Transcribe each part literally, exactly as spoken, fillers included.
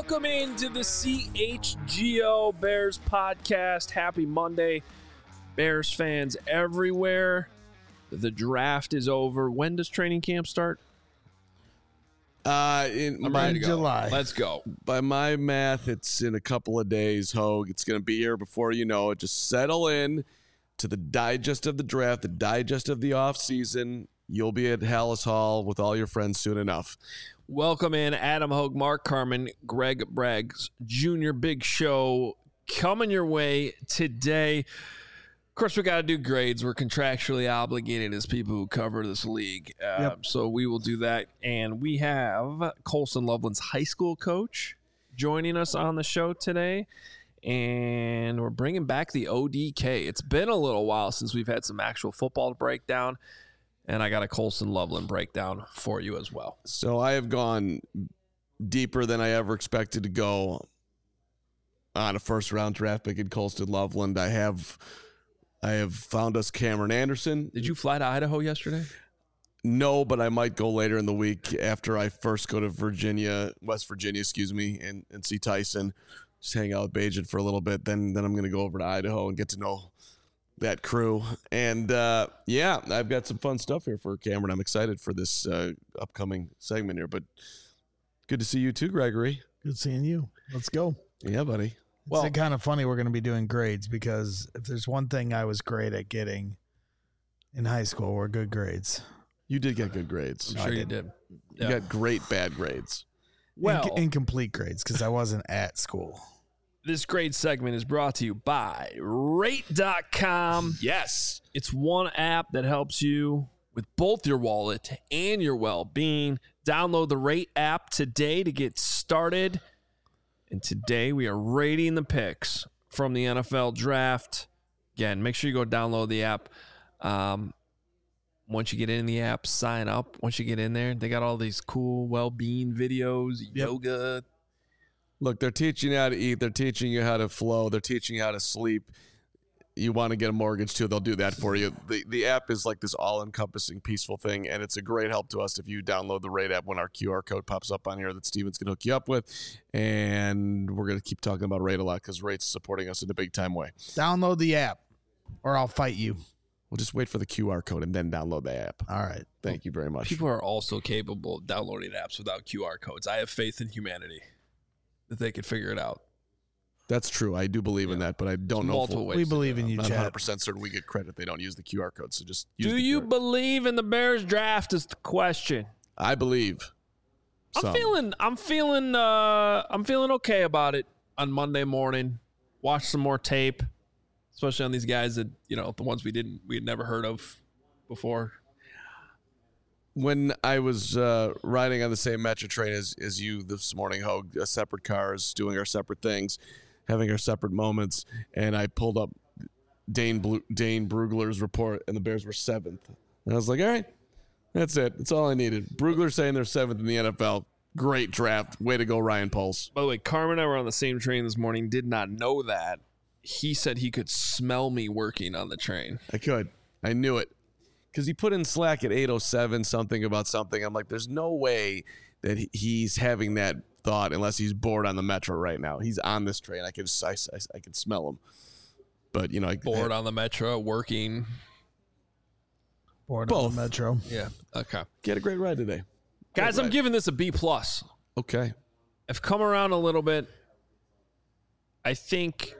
Welcome into the C H G O Bears podcast. Happy Monday, Bears fans everywhere. The draft is over. When does training camp start? Uh, in I'm my, ready to go. July. Let's go. By my math, it's in a couple of days, Hogue. It's going to be here before you know it. Just settle in to the digest of the draft, the digest of the offseason. You'll be at Hallis Hall with all your friends soon enough. Welcome in Adam Hogue, Mark Carman, Greg Braggs, Junior Big Show coming your way today. Of course, we got to do grades. We're contractually obligated as people who cover this league. Uh, Yep. So we will do that. And we have Colson Loveland's high school coach joining us on the show today. And we're bringing back the O D K. It's been a little while since we've had some actual football to break down. And I got a Colson Loveland breakdown for you as well. So I have gone deeper than I ever expected to go on a first round draft pick in Colston Loveland. I have I have found us Cameron Anderson. Did you fly to Idaho yesterday? No, but I might go later in the week after I first go to Virginia, West Virginia, excuse me, and, and see Tyson. Just hang out with Bajan for a little bit. Then then I'm going to go over to Idaho and get to know that crew. And uh, yeah, I've got some fun stuff here for Cameron. I'm excited for this uh, upcoming segment here, but good to see you too, Gregory. Good seeing you. Let's go. Yeah, buddy. Well- It's kind of funny we're going to be doing grades because if there's one thing I was great at getting in high school, were good grades. You did get good grades. I'm No, I sure you didn't. did. You got great bad grades. Well, Inc- incomplete grades because I wasn't at school. this grade segment is brought to you by rate dot com. Yes. It's one app that helps you with both your wallet and your well-being. Download the Rate app today to get started. And today we are rating the picks from the N F L draft. Again, make sure you go download the app. Um, once you get in the app, sign up. Once you get in there, they got all these cool well-being videos, yoga. Look, they're teaching you how to eat. They're teaching you how to flow. They're teaching you how to sleep. You want to get a mortgage too, they'll do that for you. The the app is like this all-encompassing, peaceful thing, and it's a great help to us if you download the Rate app when our Q R code pops up on here that Steven's going to hook you up with. And we're going to keep talking about Rate a lot because Rate's supporting us in a big-time way. Download the app or I'll fight you. We'll just wait for the Q R code and then download the app. All right. Thank you very much. People are also capable of downloading apps without Q R codes. I have faith in humanity that they could figure it out. That's true. I do believe in that, but I don't know. Multiple If ways We to believe do it. in you, I'm not one hundred Chad. percent certain we get credit. They don't use the Q R code, so just use Do the you Q R. believe in the Bears draft is the question. I believe. I'm Some. feeling I'm feeling uh I'm feeling okay about it on Monday morning. Watch some more tape, especially on these guys that, you know, the ones we didn't we had never heard of before. When I was uh, riding on the same metro train as, as you this morning, Hogue, uh, separate cars, doing our separate things, having our separate moments, and I pulled up Dane Blu- Dane Brugler's report, and the Bears were seventh. And I was like, all right, that's it. That's all I needed. Brugler saying they're seventh in the N F L. Great draft. Way to go, Ryan Poles. By the way, Carmen and I were on the same train this morning, did not know that. He said he could smell me working on the train. I could. I knew it. Because he put in Slack at eight oh seven something about something. I'm like, there's no way that he- he's having that thought unless he's bored on the metro right now. He's on this train. I can I, I, I can smell him. But, you know, I, Bored on the metro, working. Board Both. on the Metro. Yeah. Okay. get a great ride today. Guys, Great I'm ride. giving this a B plus. Okay. I've come around a little bit. I think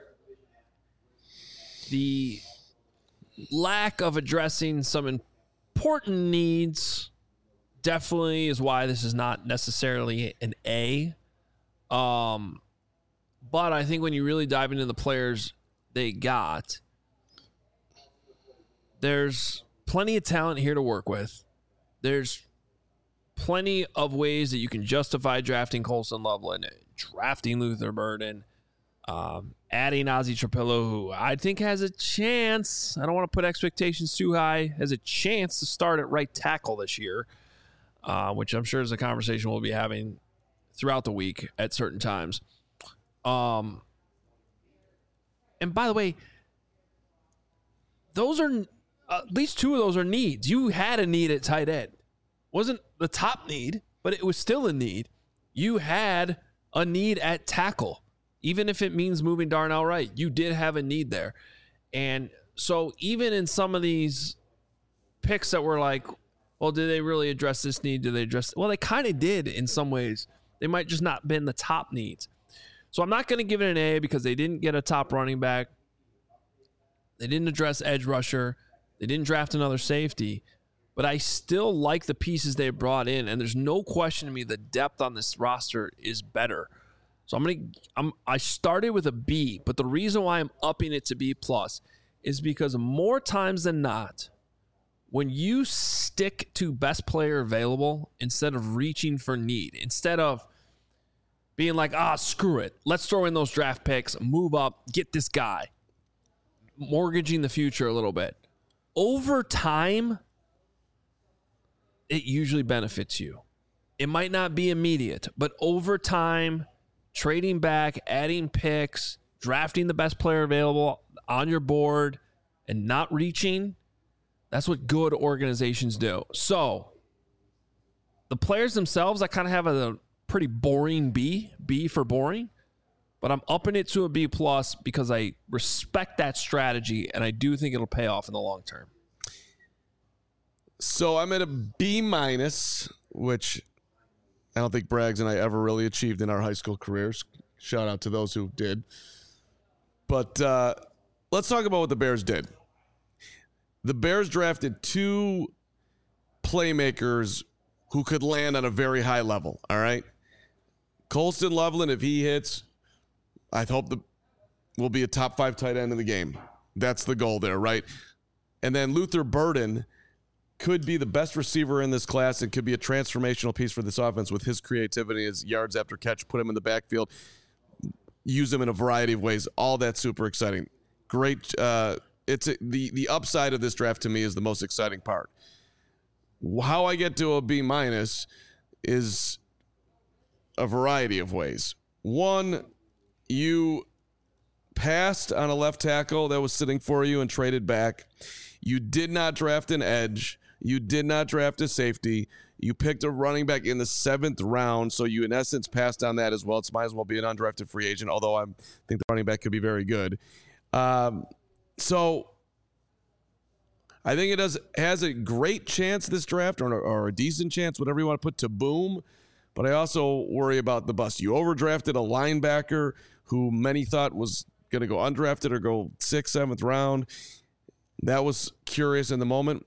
the lack of addressing some important needs definitely is why this is not necessarily an A. Um, but I think when you really dive into the players they got, there's plenty of talent here to work with. There's plenty of ways that you can justify drafting Colson Loveland, drafting Luther Burden, um, adding Ozzie Trapillo, who I think has a chance. I don't want to put expectations too high. Has a chance to start at right tackle this year, uh, which I'm sure is a conversation we'll be having throughout the week at certain times. Um, and by the way, those are uh, at least two of those are needs. You had a need at tight end. Wasn't the top need, but it was still a need. You had a need at tackle, even if it means moving Darnell Wright. You did have a need there. And so even in some of these picks that were like, well, did they really address this need? Did they address? Well, they kind of did in some ways. They might just not been the top needs. So I'm not going to give it an A because they didn't get a top running back. They didn't address edge rusher. They didn't draft another safety. But I still like the pieces they brought in, and there's no question to me the depth on this roster is better. So I'm gonna I'm I started with a B, but the reason why I'm upping it to B plus is because more times than not, when you stick to best player available instead of reaching for need, instead of being like, ah, screw it, let's throw in those draft picks, move up, get this guy, mortgaging the future a little bit. Over time, it usually benefits you. It might not be immediate, but over time, trading back, adding picks, drafting the best player available on your board, and not reaching, that's what good organizations do. So the players themselves, I kind of have a pretty boring B, B for boring, but I'm upping it to a B plus because I respect that strategy, and I do think it'll pay off in the long term. So I'm at a B minus, which I don't think Braggs and I ever really achieved in our high school careers. Shout out to those who did. But uh, let's talk about what the Bears did. The Bears drafted two playmakers who could land on a very high level, all right? Colston Loveland, if he hits, I hope the will be a top five tight end in the game. That's the goal there, right? And then Luther Burden could be the best receiver in this class and could be a transformational piece for this offense with his creativity, his yards after catch, put him in the backfield, use him in a variety of ways. All that's super exciting. Great. Uh, it's a, the, the upside of this draft to me is the most exciting part. How I get to a B minus is a variety of ways. One, you passed on a left tackle that was sitting for you and traded back. You did not draft an edge. You did not draft a safety. You picked a running back in the seventh round, so you, in essence, passed on that as well. It might as well be an undrafted free agent, although I think the running back could be very good. Um, so I think it does has a great chance, this draft, or, or a decent chance, whatever you want to put, to boom. But I also worry about the bust. You overdrafted a linebacker who many thought was going to go undrafted or go sixth, seventh round. That was curious in the moment.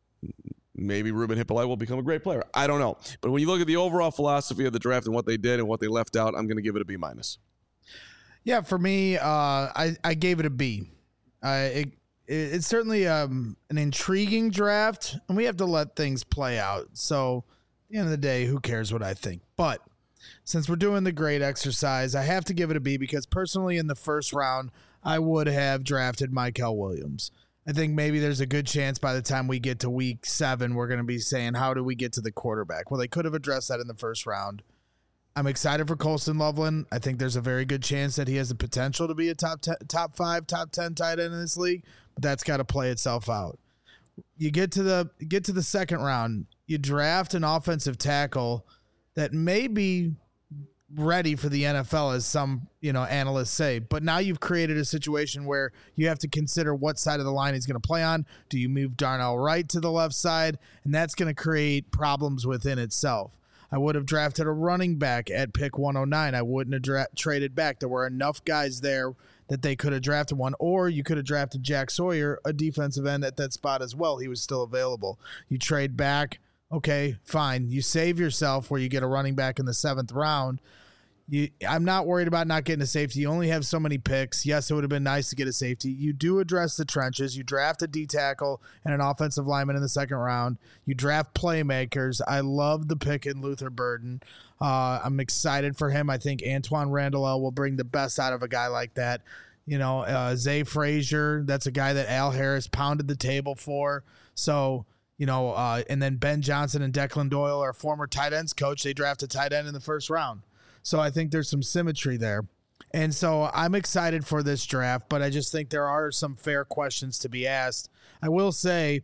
Maybe Ruben Hippolyte will become a great player. I don't know. But when you look at the overall philosophy of the draft and what they did and what they left out, I'm going to give it a B minus. Yeah, for me, uh, I, I gave it a B. Uh, it, it, it's certainly um, an intriguing draft, and we have to let things play out. So at the end of the day, who cares what I think? But since we're doing the grade exercise, I have to give it a B because personally in the first round, I would have drafted Mykel Williams. I think maybe there's a good chance by the time we get to week seven, we're going to be saying, how do we get to the quarterback? Well, they could have addressed that in the first round. I'm excited for Colston Loveland. I think there's a very good chance that he has the potential to be a top ten, top five, top ten tight end in this league, but that's got to play itself out. You get to the get to the second round, you draft an offensive tackle that may be ready for the N F L, as some, you know, analysts say, but now you've created a situation where you have to consider what side of the line he's going to play on. Do you move Darnell Wright to the left side? And that's going to create problems within itself. I would have drafted a running back at pick one oh nine. I wouldn't have dra- traded back. There were enough guys there that they could have drafted one, or you could have drafted Jack Sawyer, a defensive end, at that spot as well. He was still available. You trade back. Okay, fine. You save yourself where you get a running back in the seventh round. You, I'm not worried about not getting a safety. You only have so many picks. Yes, it would have been nice to get a safety. You do address the trenches. You draft a D tackle and an offensive lineman in the second round. You draft playmakers. I love the pick in Luther Burden. Uh, I'm excited for him. I think Antoine Randall will bring the best out of a guy like that. You know, uh, Zay Frazier, that's a guy that Al Harris pounded the table for. So, you know, uh, and then Ben Johnson and Declan Doyle are former tight ends coach. They drafted tight end in the first round. So I think there's some symmetry there. And so I'm excited for this draft, but I just think there are some fair questions to be asked. I will say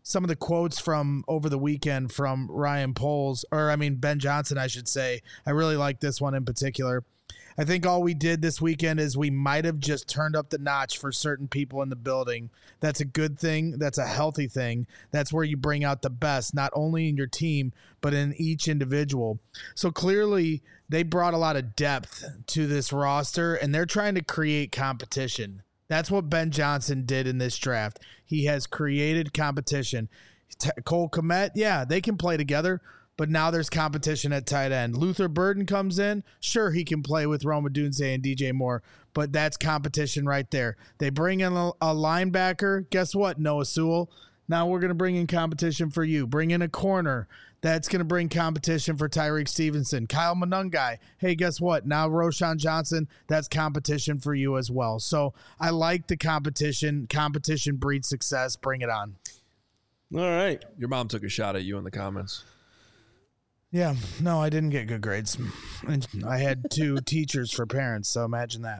some of the quotes from over the weekend from Ryan Poles, or I mean Ben Johnson, I should say. I really like this one in particular. I think all we did this weekend is we might have just turned up the notch for certain people in the building. That's a good thing. That's a healthy thing. That's where you bring out the best, not only in your team, but in each individual. So clearly they brought a lot of depth to this roster, and they're trying to create competition. That's what Ben Johnson did in this draft. He has created competition. T- Cole Kmet, yeah, they can play together, but now there's competition at tight end. Luther Burden comes in. Sure, he can play with Rome Odunze and D J Moore, but that's competition right there. They bring in a, a linebacker. Guess what, Noah Sewell? Now we're going to bring in competition for you. Bring in a corner. That's going to bring competition for Tyreek Stevenson. Kyle Monungai. Hey, guess what? Now Roshan Johnson, that's competition for you as well. So I like the competition. Competition breeds success. Bring it on. All right. Your mom took a shot at you in the comments. Yeah, no, I didn't get good grades. And I had two teachers for parents, so imagine that.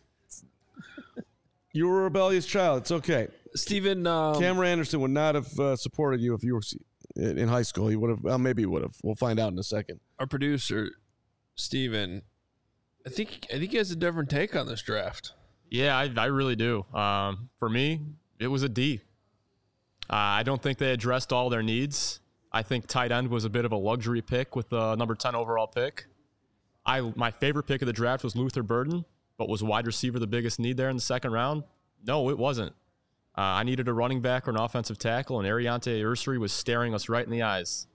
You were a rebellious child. It's okay. Steven, um, Cameron Anderson would not have uh, supported you if you were in high school. He would have. Well, maybe he would have. We'll find out in a second. Our producer, Steven, I think I think he has a different take on this draft. Yeah, I, I really do. Um, for me, it was a D. Uh, I don't think they addressed all their needs. I think tight end was a bit of a luxury pick with the number ten overall pick. I my favorite pick of the draft was Luther Burden, but was wide receiver the biggest need there in the second round? No, it wasn't. Uh, I needed a running back or an offensive tackle, and Ariante Ursary was staring us right in the eyes.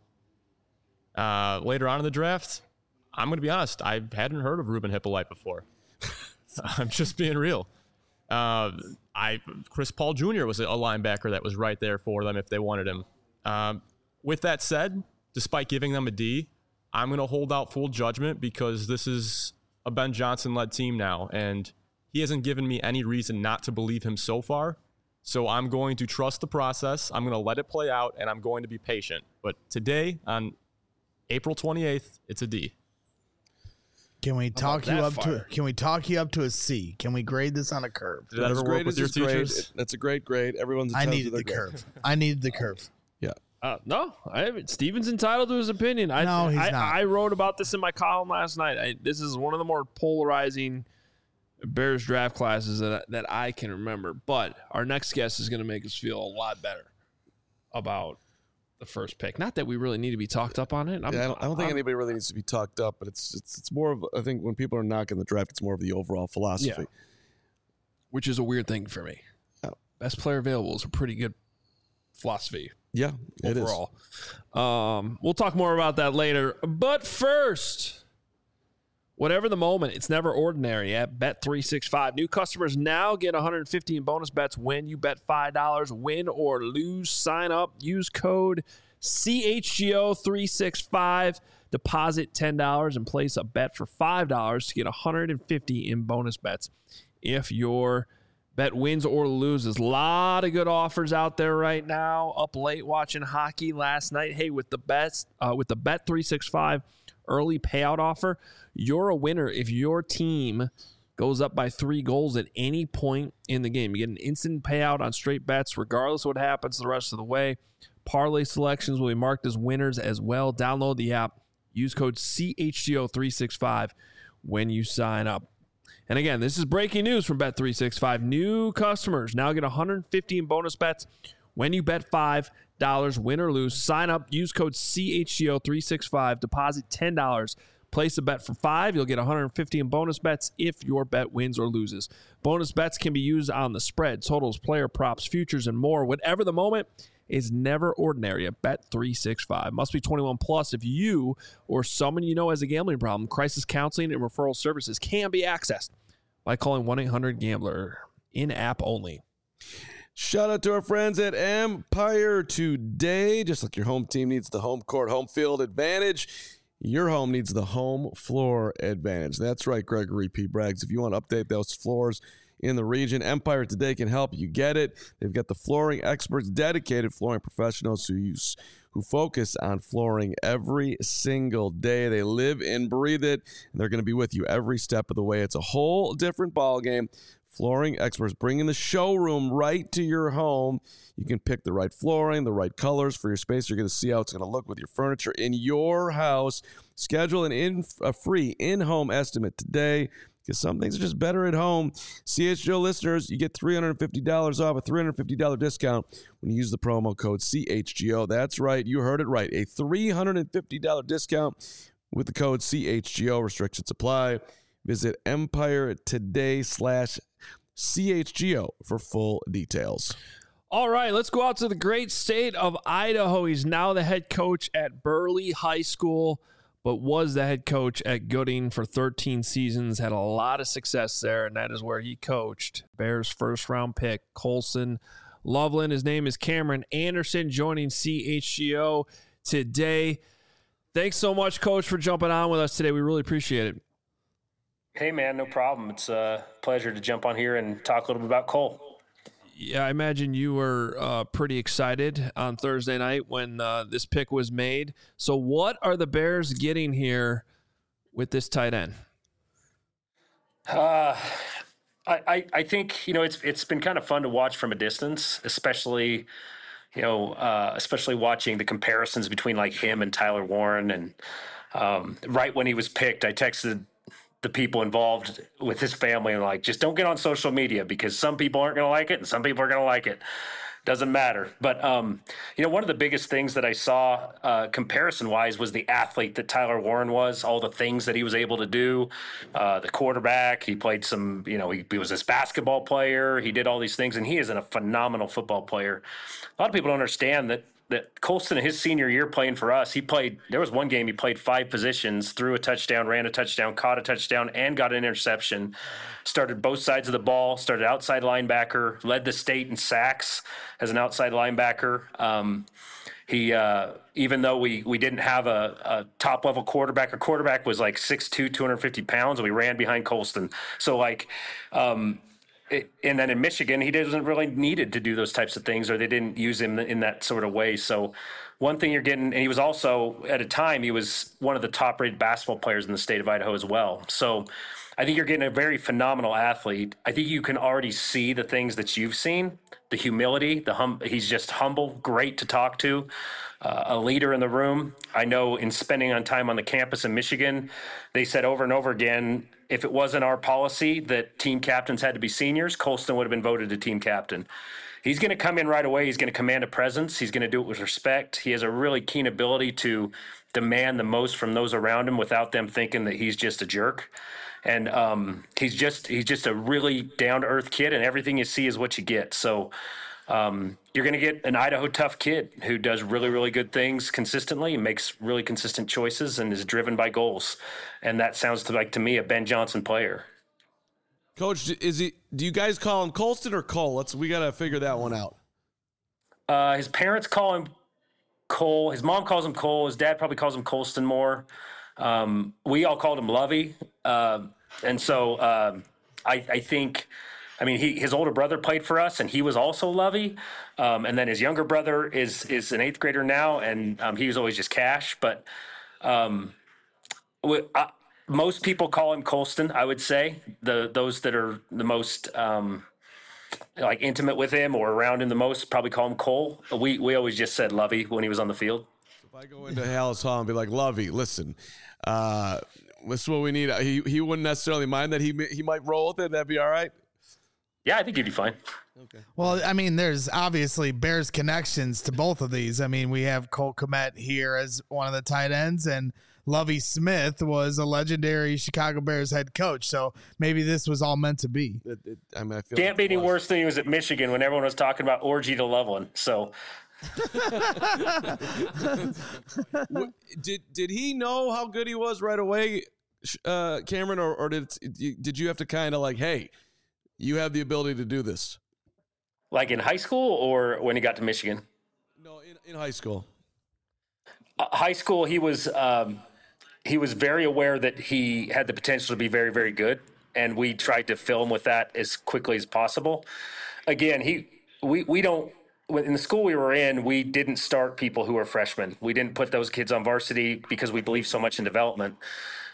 Uh, later on in the draft, I'm going to be honest, I hadn't heard of Ruben Hippolyte before. I'm just being real. Uh, I Chris Paul Junior was a linebacker that was right there for them if they wanted him. Um, with that said, despite giving them a D, I'm going to hold out full judgment because this is a Ben Johnson-led team now, and he hasn't given me any reason not to believe him so far. So I'm going to trust the process. I'm going to let it play out, and I'm going to be patient. But today, on April twenty-eighth, it's a D. Can we talk you that up fire? to? Can we talk you up to a C? Can we grade this on a curve? Did that ever work with your teachers? It, that's a great grade. Everyone's I entitled needed to their the grade. curve. I needed the curve. Yeah. Uh, no, I haven't. Steven's entitled to his opinion. I, No, he's I, not. I wrote about this in my column last night. I, this is one of the more polarizing Bears draft classes that that I can remember. But our next guest is going to make us feel a lot better about the first pick. Not that we really need to be talked up on it. I'm, Yeah, I don't, I don't think I'm- anybody really needs to be talked up, but it's it's it's more of I think when people are knocking the draft, it's more of the overall philosophy. Yeah. which is a weird thing for me. Oh. Best player available is a pretty good philosophy. Yeah, it is. overall. Um, we'll talk more about that later. But first, whatever the moment, it's never ordinary at Bet three sixty-five. New customers now get one hundred fifty in bonus bets when you bet five dollars. Win or lose, sign up. Use code C H G O three sixty-five. Deposit ten dollars and place a bet for five dollars to get one hundred fifty in bonus bets. If your bet wins or loses, a lot of good offers out there right now. Up late watching hockey last night. Hey, with the best, uh, with the Bet three sixty-five early payout offer, you're a winner if your team goes up by three goals at any point in the game. You get an instant payout on straight bets, regardless of what happens the rest of the way. Parlay selections will be marked as winners as well. Download the app. Use code C H G O three sixty-five when you sign up. And again, this is breaking news from Bet three sixty-five. New customers now get one hundred fifty in bonus bets when you bet five dollars, win or lose. Sign up, use code C H G O three sixty-five, deposit ten dollars. Place a bet for five dollars. You'll get one hundred fifty in bonus bets if your bet wins or loses. Bonus bets can be used on the spread, totals, player props, futures, and more. Whatever the moment, is never ordinary at Bet three sixty-five. Must be twenty-one plus if you or someone you know has a gambling problem. Crisis counseling and referral services can be accessed by calling one eight hundred gambler. In-app only. Shout out to our friends at Empire today. Just like your home team needs the home court, home field advantage, your home needs the home floor advantage. That's right, Gregory P. Braggs. If you want to update those floors in the region, Empire today can help you get it. They've got the flooring experts, dedicated flooring professionals who use who focus on flooring every single day. They live and breathe it, and they're going to be with you every step of the way. It's a whole different ballgame Flooring experts, bringing the showroom right to your home. You can pick the right flooring, the right colors for your space. You're going to see how it's going to look with your furniture in your house. Schedule an in, a free in-home estimate today, because some things are just better at home. C H G O listeners, you get three hundred fifty dollars off, a three hundred fifty dollars discount when you use the promo code C H G O. That's right. You heard it right. A three hundred fifty dollars discount with the code C H G O. Restrictions apply. Visit Empire Today slash C H G O for full details. All right, let's go out to the great state of Idaho. He's now the head coach at Burley High School, but was the head coach at Gooding for thirteen seasons, had a lot of success there, and that is where he coached. Bears first-round pick, Colson Loveland. His name is Cameron Anderson, joining C H G O today. Thanks so much, Coach, for jumping on with us today. We really appreciate it. Hey, man, no problem. It's a pleasure to jump on here and talk a little bit about Cole. Yeah, I imagine you were uh, pretty excited on Thursday night when uh, this pick was made. So what are the Bears getting here with this tight end? Uh, I, I, I think, you know, it's it's been kind of fun to watch from a distance, especially, you know, uh, especially watching the comparisons between like him and Tyler Warren. And um, right when he was picked, I texted the people involved with his family and like, just don't get on social media, because some people aren't going to like it and some people are going to like it. Doesn't matter. But, um, you know, one of the biggest things that I saw uh, comparison wise was the athlete that Tyler Warren was, all the things that he was able to do, uh, the quarterback. He played some, you know, he, he was this basketball player. He did all these things, and he is a phenomenal football player. A lot of people don't understand that that Colston, his senior year playing for us, he played, there was one game he played five positions, threw a touchdown, ran a touchdown, caught a touchdown, and got an interception. Started both sides of the ball, started outside linebacker, led the state in sacks as an outside linebacker. Um, he, uh, even though we, we didn't have a, a top level quarterback, our quarterback was like six two, two hundred fifty pounds, and we ran behind Colston. So like, um, It, and then in Michigan, he doesn't really needed to do those types of things, or they didn't use him in that sort of way. So one thing you're getting, and he was also, at a time, he was one of the top-rated basketball players in the state of Idaho as well. So I think you're getting a very phenomenal athlete. I think you can already see the things that you've seen, the humility, the hum. He's just humble, great to talk to, uh, a leader in the room. I know in spending on time on the campus in Michigan, they said over and over again, if it wasn't our policy that team captains had to be seniors, Colston would have been voted a team captain. He's going to come in right away. He's going to command a presence. He's going to do it with respect. He has a really keen ability to demand the most from those around him without them thinking that he's just a jerk. And um, he's just he's just a really down-to-earth kid, and everything you see is what you get. So um, you're going to get an Idaho tough kid who does really, really good things consistently, makes really consistent choices, and is driven by goals. And that sounds to, like to me a Ben Johnson player. Coach, is he? Do you guys call him Colston or Cole? Let's we got to figure that one out. Uh, his parents call him Cole. His mom calls him Cole. His dad probably calls him Colston more. Um, we all called him Lovey. Uh, and so um, I, I think, I mean, he, his older brother played for us, and he was also Lovey. Um, and then his younger brother is is an eighth grader now, and um, he was always just Cash. But um, we, I, most people call him Colston, I would say. The those that are the most um, like intimate with him or around him the most probably call him Cole. We we always just said Lovey when he was on the field. If I go into Hallis Hall and be like, Lovey, listen, uh, this is what we need. He he wouldn't necessarily mind that he he might roll with it. That'd be all right. Yeah, I think he'd be fine. Okay. Well, I mean, there's obviously Bears connections to both of these. I mean, we have Cole Kmet here as one of the tight ends, and Lovey Smith was a legendary Chicago Bears head coach. So maybe this was all meant to be. It, it, I mean, I feel Can't like be any was. worse than he was at Michigan when everyone was talking about orgy to Loveland. So did did he know how good he was right away, uh, Cameron, or, or did did you have to kind of like, hey, you have the ability to do this? Like in high school or when he got to Michigan? No, in, in high school. Uh, high school, he was um, he was very aware that he had the potential to be very, very good, and we tried to fill him with that as quickly as possible. Again, he we we don't. In the school we were in, we didn't start people who were freshmen. We didn't put those kids on varsity because we believe so much in development.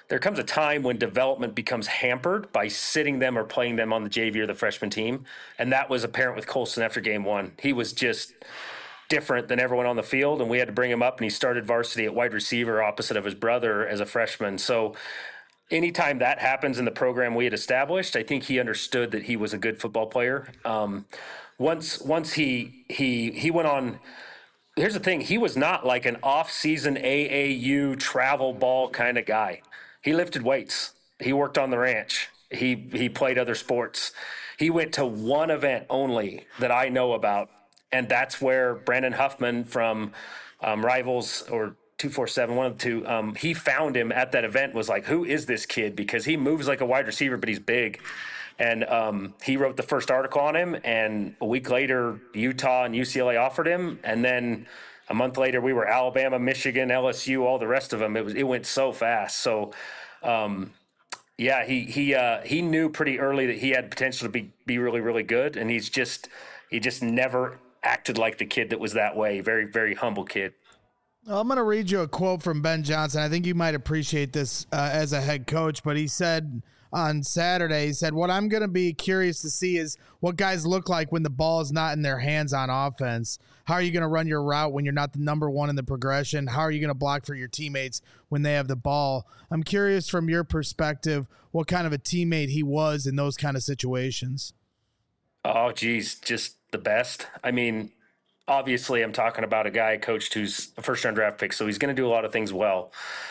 there comes a time when development becomes hampered by sitting them or playing them on the J V or the freshman team. And that was apparent with Colston after game one. He was just different than everyone on the field, and we had to bring him up, and he started varsity at wide receiver opposite of his brother as a freshman. So anytime that happens in the program we had established, I think he understood that he was a good football player. Um, once once he he he went on. Here's the thing. He was not like an off-season A A U travel ball kind of guy. He lifted weights. He worked on the ranch. He he played other sports. He went to one event only that I know about, and that's where Brandon Huffman from um, Rivals or two forty-seven, one of the two, um, he found him at that event, was like, who is this kid? Because he moves like a wide receiver, but he's big. And um, he wrote the first article on him, and a week later, Utah and U C L A offered him, and then a month later, we were Alabama, Michigan, L S U, all the rest of them. It was it went so fast. So, um, yeah, he he uh, he knew pretty early that he had potential to be be really really good, and he's just he just never acted like the kid that was that way. Very very humble kid. Well, I'm going to read you a quote from Ben Johnson. I think you might appreciate this uh, as a head coach, but he said on Saturday, he said, what I'm going to be curious to see is what guys look like when the ball is not in their hands on offense. How are you going to run your route when you're not the number one in the progression? How are you going to block for your teammates when they have the ball? I'm curious from your perspective, what kind of a teammate he was in those kind of situations. Oh, geez, just the best. I mean, obviously, I'm talking about a guy I coached who's a first-round draft pick, so he's going to do a lot of things well.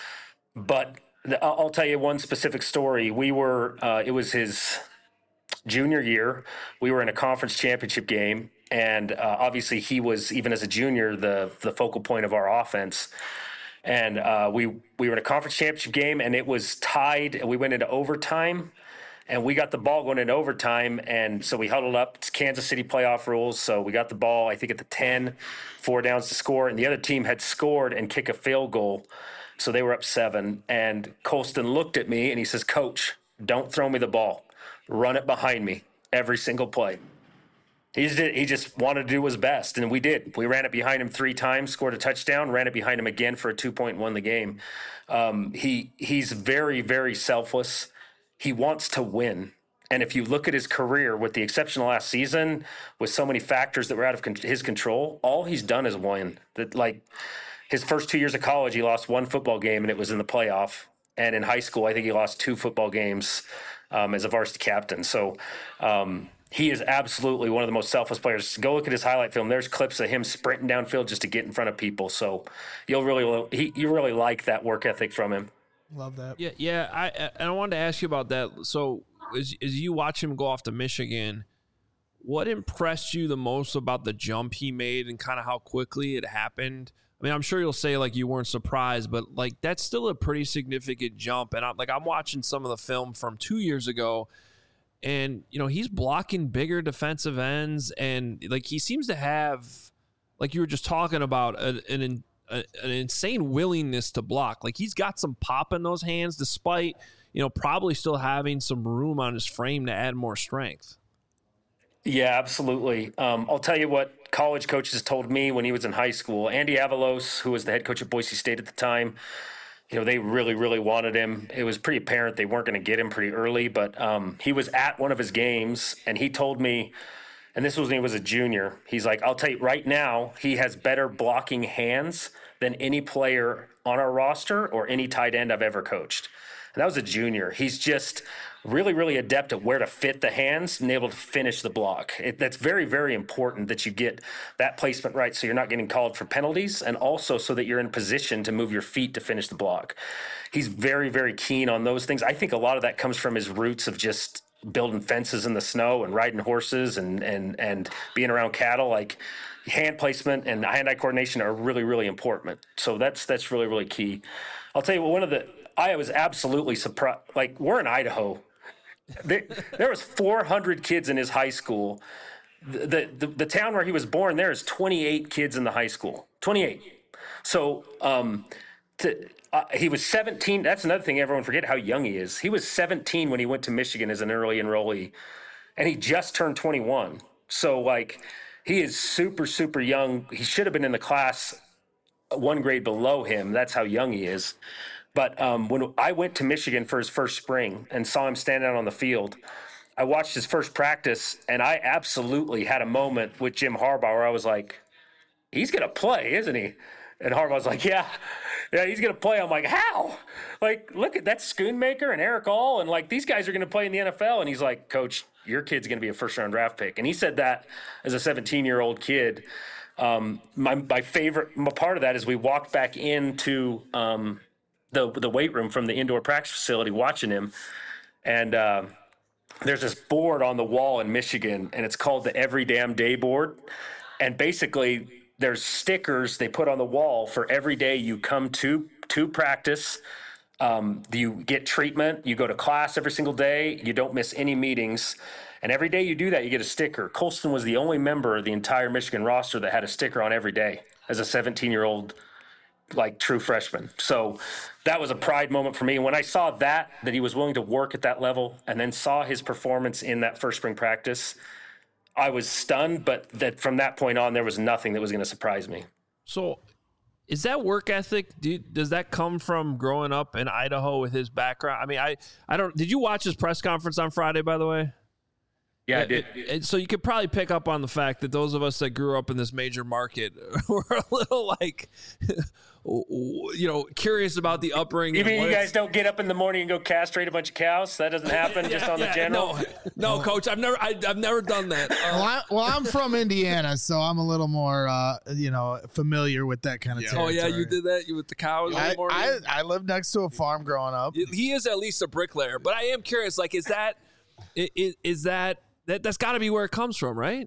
But the, I'll tell you one specific story. We were, uh, it was his junior year. We were in a conference championship game, and uh, obviously he was, even as a junior, the the focal point of our offense. And uh, we we were in a conference championship game, and it was tied, and we went into overtime. And we got the ball going into overtime, and so we huddled up. It's Kansas City playoff rules, so we got the ball, I think, at the ten, four downs to score, and the other team had scored and kick a field goal, so they were up seven. And Colston looked at me, and he says, Coach, don't throw me the ball. Run it behind me every single play. He just, did, he just wanted to do his best, and we did. We ran it behind him three times, scored a touchdown, ran it behind him again for a two-point, won the game. Um, he he's very, very selfless. He wants to win. And if you look at his career, with the exception of last season, with so many factors that were out of con- his control, all he's done is win. That, like, his first two years of college, he lost one football game, and it was in the playoff. And in high school, I think he lost two football games um, as a varsity captain. So um, he is absolutely one of the most selfless players. Go look at his highlight film. There's clips of him sprinting downfield just to get in front of people. So you'll really, he, you really like that work ethic from him. Love that. Yeah, yeah. I and I wanted to ask you about that. So, as, as you watch him go off to Michigan, what impressed you the most about the jump he made and kind of how quickly it happened? I mean, I'm sure you'll say like you weren't surprised, but like that's still a pretty significant jump. And I'm like, I'm watching some of the film from two years ago, and you know he's blocking bigger defensive ends, and like he seems to have, like you were just talking about, a, an A, an insane willingness to block. Like he's got some pop in those hands, despite, you know, probably still having some room on his frame to add more strength. Yeah, absolutely. Um, I'll tell you what college coaches told me when he was in high school. Andy Avalos, who was the head coach at Boise State at the time, you know, they really, really wanted him. It was pretty apparent they weren't going to get him pretty early, but um, he was at one of his games, and he told me, and this was when he was a junior, he's like, I'll tell you right now, he has better blocking hands than any player on our roster or any tight end I've ever coached. And that was a junior. He's just really, really adept at where to fit the hands and able to finish the block. It, that's very, very important that you get that placement right so you're not getting called for penalties, and also so that you're in position to move your feet to finish the block. He's very, very keen on those things. I think a lot of that comes from his roots of just building fences in the snow and riding horses and and and being around cattle. Like hand placement and hand-eye coordination are really, really important. So that's that's really, really key. I'll tell you what, one of the I was absolutely surprised. Like, we're in Idaho. There, there was four hundred kids in his high school. The, the the town where he was born, there is twenty-eight kids in the high school. twenty-eight. So um, to, uh, he was seventeen. That's another thing everyone forget how young he is. He was seventeen when he went to Michigan as an early enrollee, and he just turned twenty-one. So, like, he is super, super young. He should have been in the class one grade below him. That's how young he is. But um, when I went to Michigan for his first spring and saw him standing out on the field, I watched his first practice, and I absolutely had a moment with Jim Harbaugh where I was like, he's going to play, isn't he? And Harbaugh's like, yeah, yeah, he's going to play. I'm like, how? Like, look at that, Schoonmaker and Eric All, and like these guys are going to play in the N F L. And he's like, Coach, your kid's going to be a first round draft pick. And he said that as a seventeen year old kid. Um, my my favorite my part of that is we walked back into um, the the weight room from the indoor practice facility, watching him, and uh, there's this board on the wall in Michigan, and it's called the Every Damn Day board, and basically there's stickers they put on the wall for every day you come to to practice. Um, you get treatment, you go to class every single day, you don't miss any meetings. And every day you do that, you get a sticker. Colston was the only member of the entire Michigan roster that had a sticker on every day as a seventeen-year-old, like, true freshman. So that was a pride moment for me. When I saw that, that he was willing to work at that level, and then saw his performance in that first spring practice, I was stunned. But that from that point on, there was nothing that was going to surprise me. So is that work ethic? Do you, does that come from growing up in Idaho with his background? I mean, I, I don't – did you watch his press conference on Friday, by the way? Yeah, I did. And so you could probably pick up on the fact that those of us that grew up in this major market were a little like, you know, curious about the upbringing. You mean you guys don't get up in the morning and go castrate a bunch of cows? That doesn't happen yeah, just on yeah, the general? No, no, Coach, I've never, I, I've never done that. Uh, well, I, well, I'm from Indiana, so I'm a little more, uh, you know, familiar with that kind of Yeah. territory. oh yeah, you did that. You with the cows. in the I, morning? I, I lived next to a farm growing up. He is at least a bricklayer, but I am curious. Like, is that, is, is that? That, that's got to be where it comes from, right?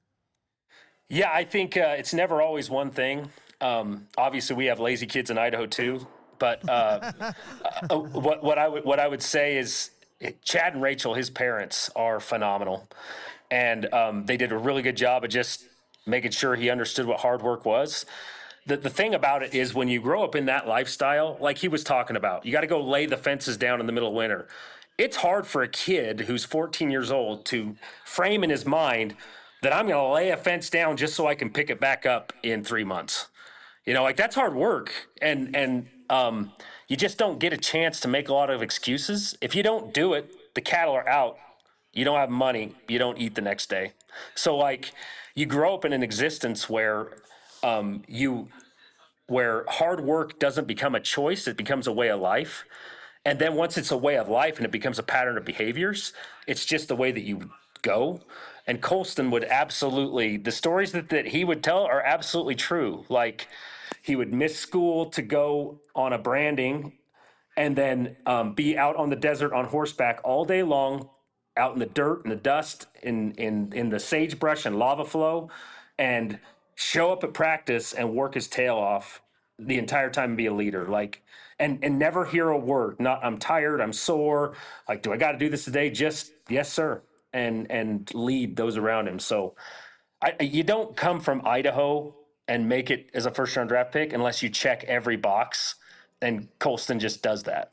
Yeah, I think uh, it's never always one thing. Um, obviously, we have lazy kids in Idaho too. But uh, uh, what what I would what I would say is Chad and Rachel, his parents, are phenomenal, and um, they did a really good job of just making sure he understood what hard work was. The the thing about it is when you grow up in that lifestyle, like he was talking about, you got to go lay the fences down in the middle of winter. It's hard for a kid who's fourteen years old to frame in his mind that I'm going to lay a fence down just so I can pick it back up in three months. You know, like that's hard work. And, and um, you just don't get a chance to make a lot of excuses. If you don't do it, the cattle are out. You don't have money. You don't eat the next day. So like you grow up in an existence where um, you, where hard work doesn't become a choice. It becomes a way of life. And then once it's a way of life and it becomes a pattern of behaviors, it's just the way that you go. And Colston would absolutely, the stories that, that he would tell are absolutely true. Like he would miss school to go on a branding and then um, be out on the desert on horseback all day long, out in the dirt and the dust, in, in, in the sagebrush and lava flow, and show up at practice and work his tail off the entire time and be a leader. Like, And and never hear a word. Not I'm tired, I'm sore. Like, do I got to do this today? Just yes, sir, and and lead those around him. So, I, you don't come from Idaho and make it as a first round draft pick unless you check every box. And Colston just does that.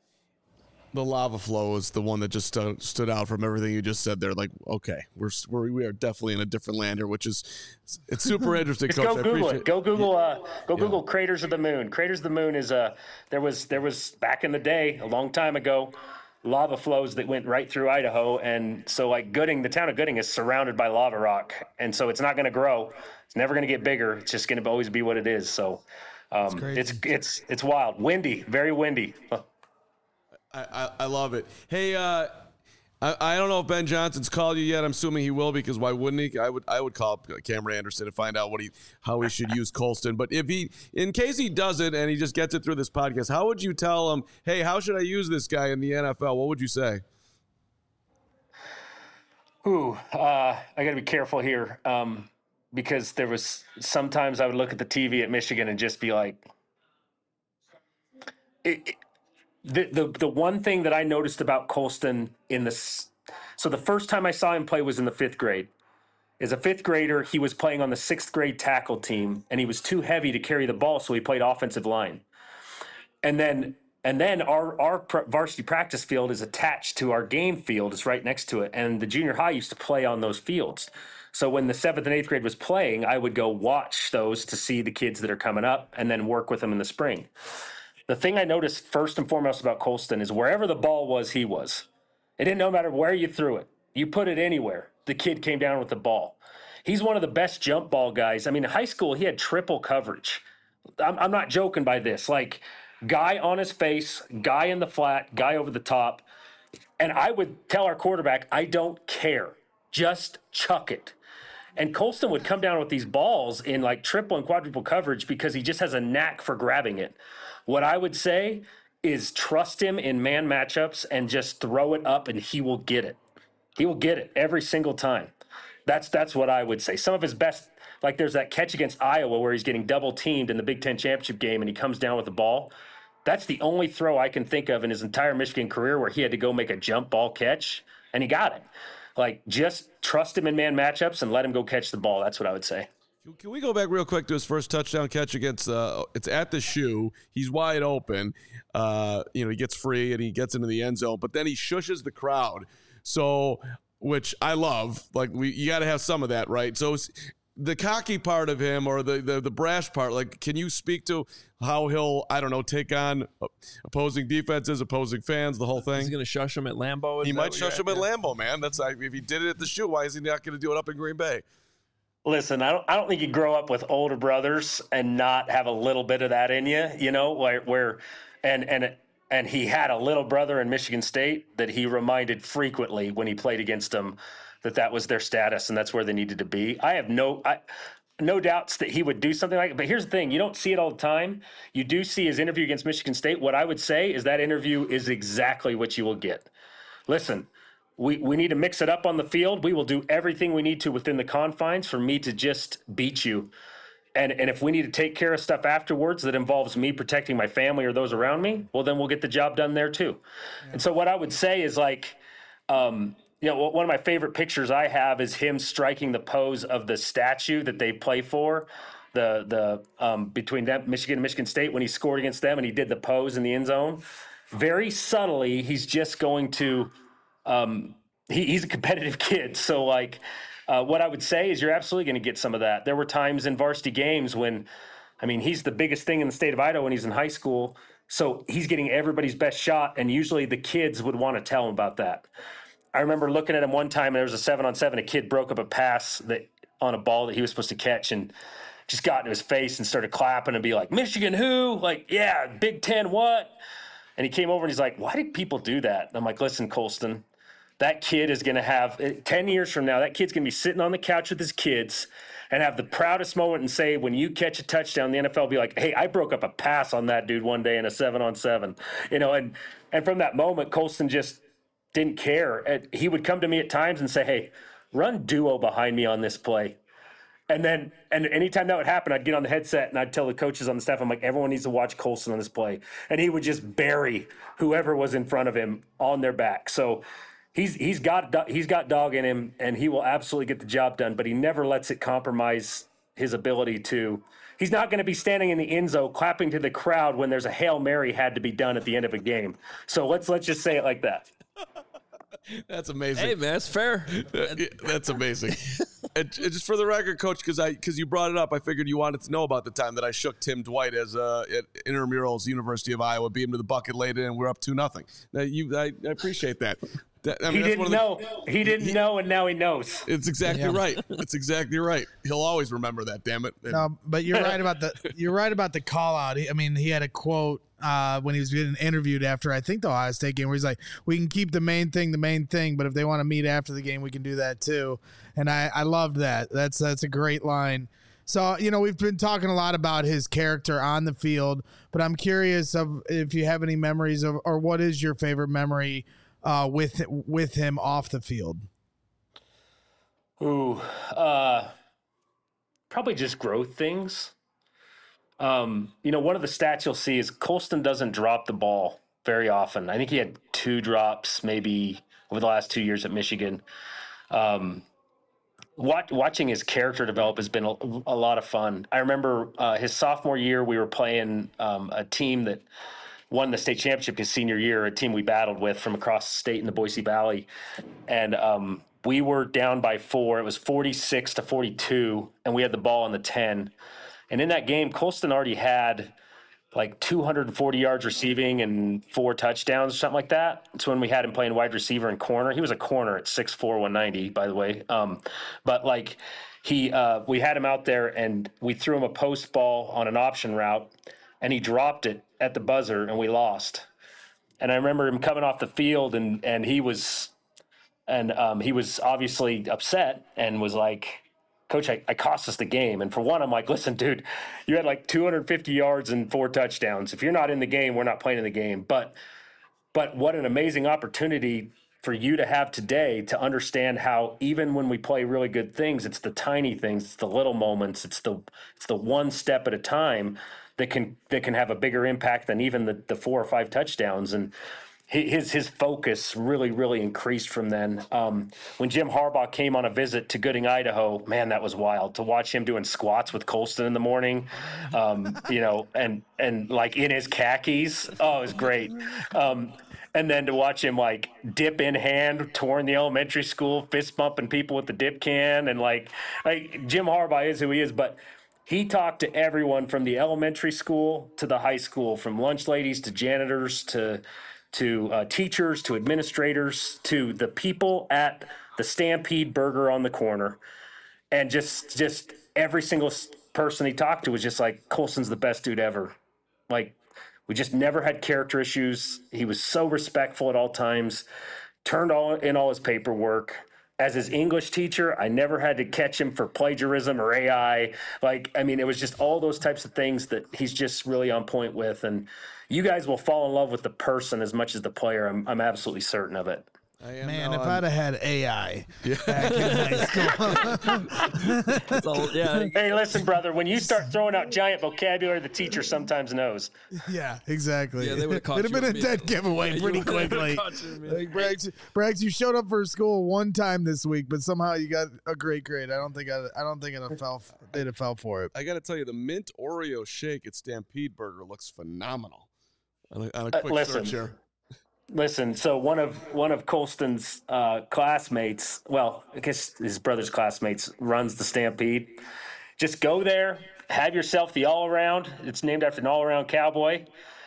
The lava flow is the one that just stu- stood out from everything you just said there. Like, okay, we're, we're we are definitely in a different land here, which is it's super interesting. Just Coach. go I Google appreciate it. Go Google. Uh, go Yeah. Google Craters of the Moon. Craters of the Moon is a. There was there was back in the day, a long time ago, lava flows that went right through Idaho, and so like Gooding, the town of Gooding is surrounded by lava rock, and so it's not going to grow. It's never going to get bigger. It's just going to always be what it is. So, um, it's it's it's wild, windy, very windy. I, I, I love it. Hey, uh, I, I don't know if Ben Johnson's called you yet. I'm assuming he will, because why wouldn't he? I would I would call Cameron Anderson to find out what he how he should use Colston. But if he, in case he doesn't and he just gets it through this podcast, how would you tell him, hey, how should I use this guy in the N F L? What would you say? Ooh, uh, I got to be careful here, um, because there was sometimes I would look at the T V at Michigan and just be like, it, it, The, the the one thing that I noticed about Colston in this, so the first time I saw him play was in the fifth grade. As a fifth grader, he was playing on the sixth grade tackle team, and he was too heavy to carry the ball, so he played offensive line. And then and then our our varsity practice field is attached to our game field. It's right next to it, and the junior high used to play on those fields. So when the seventh and eighth grade was playing, I would go watch those to see the kids that are coming up, and then work with them in the spring. the thing I noticed first and foremost about Colston is wherever the ball was, he was. It didn't no matter where you threw it. You put it anywhere, the kid came down with the ball. He's one of the best jump ball guys. I mean, in high school, he had triple coverage. I'm, I'm not joking by this. Like, guy on his face, guy in the flat, guy over the top. And I would tell our quarterback, I don't care. Just chuck it. And Colston would come down with these balls in like triple and quadruple coverage because he just has a knack for grabbing it. What I would say is trust him in man matchups and just throw it up and he will get it. He will get it every single time. That's that's what I would say. Some of his best, like there's that catch against Iowa where he's getting double teamed in the Big Ten championship game and he comes down with the ball. That's the only throw I can think of in his entire Michigan career where he had to go make a jump ball catch and he got it. Like, just trust him in man matchups and let him go catch the ball. That's what I would say. Can we go back real quick to his first touchdown catch against, uh, it's at the shoe. He's wide open. Uh, you know, he gets free and he gets into the end zone, but then he shushes the crowd. So, which I love. Like, we you got to have some of that, right? So, the cocky part of him or the, the, the brash part, like, can you speak to how he'll, I don't know, take on opposing defenses, opposing fans, the whole thing? He's going to shush him at Lambeau? He might shush him at Lambeau, man. That's like, if he did it at the shoe, why is he not going to do it up in Green Bay? Listen, I don't I don't think you grow up with older brothers and not have a little bit of that in you, you know, where, where and and and he had a little brother in Michigan State that he reminded frequently when he played against them that that was their status and that's where they needed to be. I have no I, no doubts that he would do something like it. But here's the thing. You don't see it all the time. You do see his interview against Michigan State. What I would say is that interview is exactly what you will get. Listen, we, we need to mix it up on the field. We will do everything we need to within the confines for me to just beat you. And, and if we need to take care of stuff afterwards that involves me protecting my family or those around me, well, then we'll get the job done there too. Yeah. And so what I would say is like, um, you know, one of my favorite pictures I have is him striking the pose of the statue that they play for, the the um, between them, Michigan and Michigan State, when he scored against them and he did the pose in the end zone. Very subtly, he's just going to um, he, he's a competitive kid. So, like, uh, what I would say is you're absolutely going to get some of that. There were times in varsity games when, I mean, he's the biggest thing in the state of Idaho when he's in high school. So he's getting everybody's best shot, and usually the kids would want to tell him about that. I remember looking at him one time, and there was a seven on seven. A kid broke up a pass that on a ball that he was supposed to catch and just got into his face and started clapping and be like, Michigan who? Like, yeah, Big Ten what? And he came over and he's like, why did people do that? And I'm like, listen, Colston, that kid is going to have ten years from now, that kid's going to be sitting on the couch with his kids and have the proudest moment and say, when you catch a touchdown, the N F L will be like, hey, I broke up a pass on that dude one day in a seven on seven, you know, and, and from that moment, Colston just didn't care. And he would come to me at times and say, hey, run duo behind me on this play. And then, and anytime that would happen, I'd get on the headset and I'd tell the coaches on the staff, I'm like, everyone needs to watch Colston on this play. And he would just bury whoever was in front of him on their back. So he's, he's got, he's got dog in him and he will absolutely get the job done, but he never lets it compromise his ability to, he's not going to be standing in the end zone clapping to the crowd when there's a Hail Mary had to be done at the end of a game. So let's, let's just say it like that. That's amazing. Hey, man, that's fair. That's amazing. And just for the record, Coach, because I because you brought it up, I figured you wanted to know about the time that I shook Tim Dwight as uh, at intramurals, University of Iowa, beat him to the bucket late, and we're up two nothing. Now, you, I, I appreciate that. that I mean, he didn't the, know. He didn't he, know, and now he knows. It's exactly yeah. right. It's exactly right. He'll always remember that. Damn it. And, no, but you're right about the you're right about the call out. I mean, he had a quote uh, when he was getting interviewed after I think the Ohio State game, where he's like, "We can keep the main thing the main thing, but if they want to meet after the game, we can do that too." And I I loved that. That's that's a great line. So, you know, we've been talking a lot about his character on the field, but I'm curious of if you have any memories of, or what is your favorite memory uh, with with him off the field? Ooh, uh, probably just growth things. Um, you know, one of the stats you'll see is Colston doesn't drop the ball very often. I think he had two drops maybe over the last two years at Michigan. Um, watch, watching his character develop has been a, a lot of fun. I remember uh, his sophomore year, we were playing um, a team that won the state championship his senior year, a team we battled with from across the state in the Boise Valley. And um, we were down by four. It was forty-six to forty-two, and we had the ball on the ten. And in that game, Colston already had like two hundred forty yards receiving and four touchdowns, something like that. It's when we had him playing wide receiver and corner. He was a corner at six four, one ninety, by the way. Um, but like he, uh, we had him out there and we threw him a post ball on an option route and he dropped it at the buzzer and we lost. And I remember him coming off the field and, and he was, and um, he was obviously upset and was like, Coach, I, I cost us the game. And for one, I'm like, listen, dude, you had like two hundred fifty yards and four touchdowns. If you're not in the game, we're not playing in the game. But but what an amazing opportunity for you to have today to understand how even when we play really good things, it's the tiny things, it's the little moments, it's the it's the one step at a time that can that can have a bigger impact than even the, the four or five touchdowns. And his his focus really, really increased from then. Um, when Jim Harbaugh came on a visit to Gooding, Idaho, man, that was wild to watch him doing squats with Colston in the morning, um, you know, and and like in his khakis. Oh, it was great. Um, and then to watch him like dip in hand, touring the elementary school, fist bumping people with the dip can, and like like Jim Harbaugh is who he is, but he talked to everyone from the elementary school to the high school, from lunch ladies to janitors to to uh, teachers, to administrators, to the people at the Stampede Burger on the corner. And just just every single person he talked to was just like, Colston's the best dude ever. Like, we just never had character issues. He was so respectful at all times, turned all in all his paperwork. As his English teacher, I never had to catch him for plagiarism or A I. Like, I mean, it was just all those types of things that he's just really on point with. And you guys will fall in love with the person as much as the player. I'm, I'm absolutely certain of it. I am Man, now if on- I'd have had A I back in high school. So, yeah, Hey, listen, brother, when you start throwing out giant vocabulary, the teacher sometimes knows. Yeah, exactly. Yeah, they would've caught It'd have you been a dead immediately. giveaway Yeah, pretty you would've quickly. caught you immediately. Like, Braggs, Braggs, you showed up for school one time this week, but somehow you got a great grade. I don't think I, I don't think it fell. They'd have fell for it. I got to tell you, the mint Oreo shake at Stampede Burger looks phenomenal. On a, on a Uh, quick listen. search here. Listen, so one of one of Colston's uh, classmates, well, I guess his brother's classmates, runs the Stampede. Just go there, have yourself the all-around. It's named after an all-around cowboy.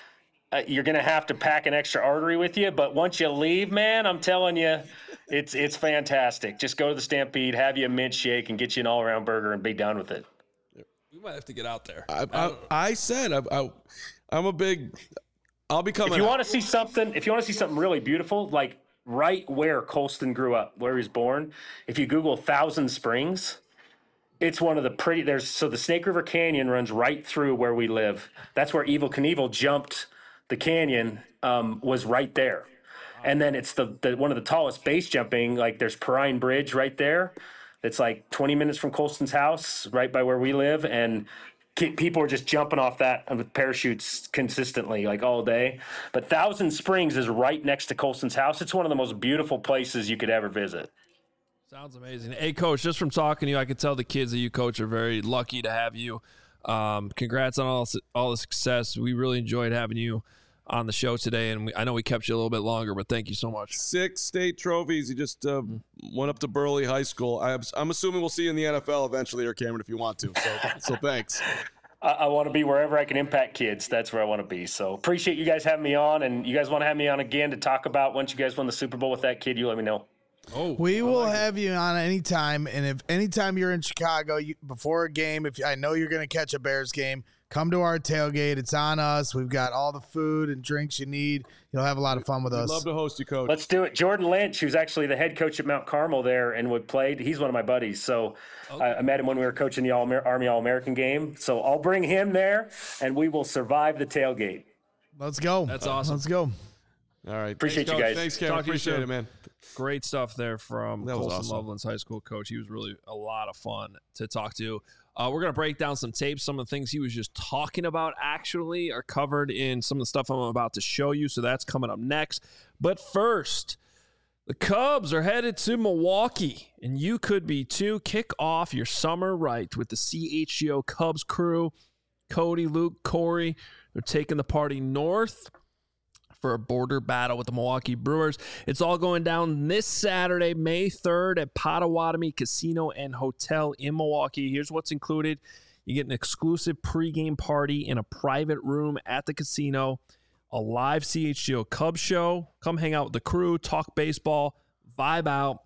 Uh, you're going to have to pack an extra artery with you, but once you leave, man, I'm telling you, it's it's fantastic. Just go to the Stampede, have you a mint shake, and get you an all-around burger and be done with it. We might have to get out there. I, I, I said I, I, I'm a big. I'll be coming. If you out. want to see something, if you want to see something really beautiful, like right where Colston grew up, where he was born, if you Google Thousand Springs, it's one of the pretty. There's so the Snake River Canyon runs right through where we live. That's where Evel Knievel jumped the canyon. Um, was right there, and then it's the, the one of the tallest base jumping. Like there's Perrine Bridge right there. It's like twenty minutes from Colston's house, right by where we live, and people are just jumping off that with parachutes consistently, like all day. But Thousand Springs is right next to Colston's house. It's one of the most beautiful places you could ever visit. Sounds amazing. Hey, Coach, just from talking to you, I could tell the kids that you coach are very lucky to have you. Um, congrats on all all the success. We really enjoyed having you on the show today, and we, I know we kept you a little bit longer, but thank you so much. Six state trophies. You just uh, went up to Burley High School. I, I'm assuming we'll see you in the N F L eventually, or Cameron, if you want to. So, so thanks. I, I want to be wherever I can impact kids. That's where I want to be. So appreciate you guys having me on, and you guys want to have me on again to talk about once you guys win the Super Bowl with that kid, you let me know. Oh, We will have you on anytime, and if anytime you're in Chicago you, before a game, if I know you're going to catch a Bears game, come to our tailgate. It's on us. We've got all the food and drinks you need. You'll have a lot of fun with We'd us. love to host you, Coach. Let's do it. Jordan Lynch, who's actually the head coach at Mount Carmel there and would played, he's one of my buddies. So I, I met him when we were coaching the All Army All-American game. So I'll bring him there, and we will survive the tailgate. Let's go. That's awesome. Let's go. All right. Appreciate Thanks, you Coach. guys. Thanks, Cameron. Talk to you Appreciate soon. it, man. Great stuff there from That was Colston awesome. Loveland's high school coach. He was really a lot of fun to talk to. Uh, we're going to break down some tapes. Some of the things he was just talking about actually are covered in some of the stuff I'm about to show you. So that's coming up next. But first, the Cubs are headed to Milwaukee, and you could be too. Kick off your summer right with the C H G O Cubs crew. Cody, Luke, Corey, they're taking the party north for a border battle with the Milwaukee Brewers. It's all going down this Saturday, May third at Potawatomi Casino and Hotel in Milwaukee. Here's what's included. You get an exclusive pregame party in a private room at the casino, a live C H G O Cubs show. Come hang out with the crew, talk baseball, vibe out.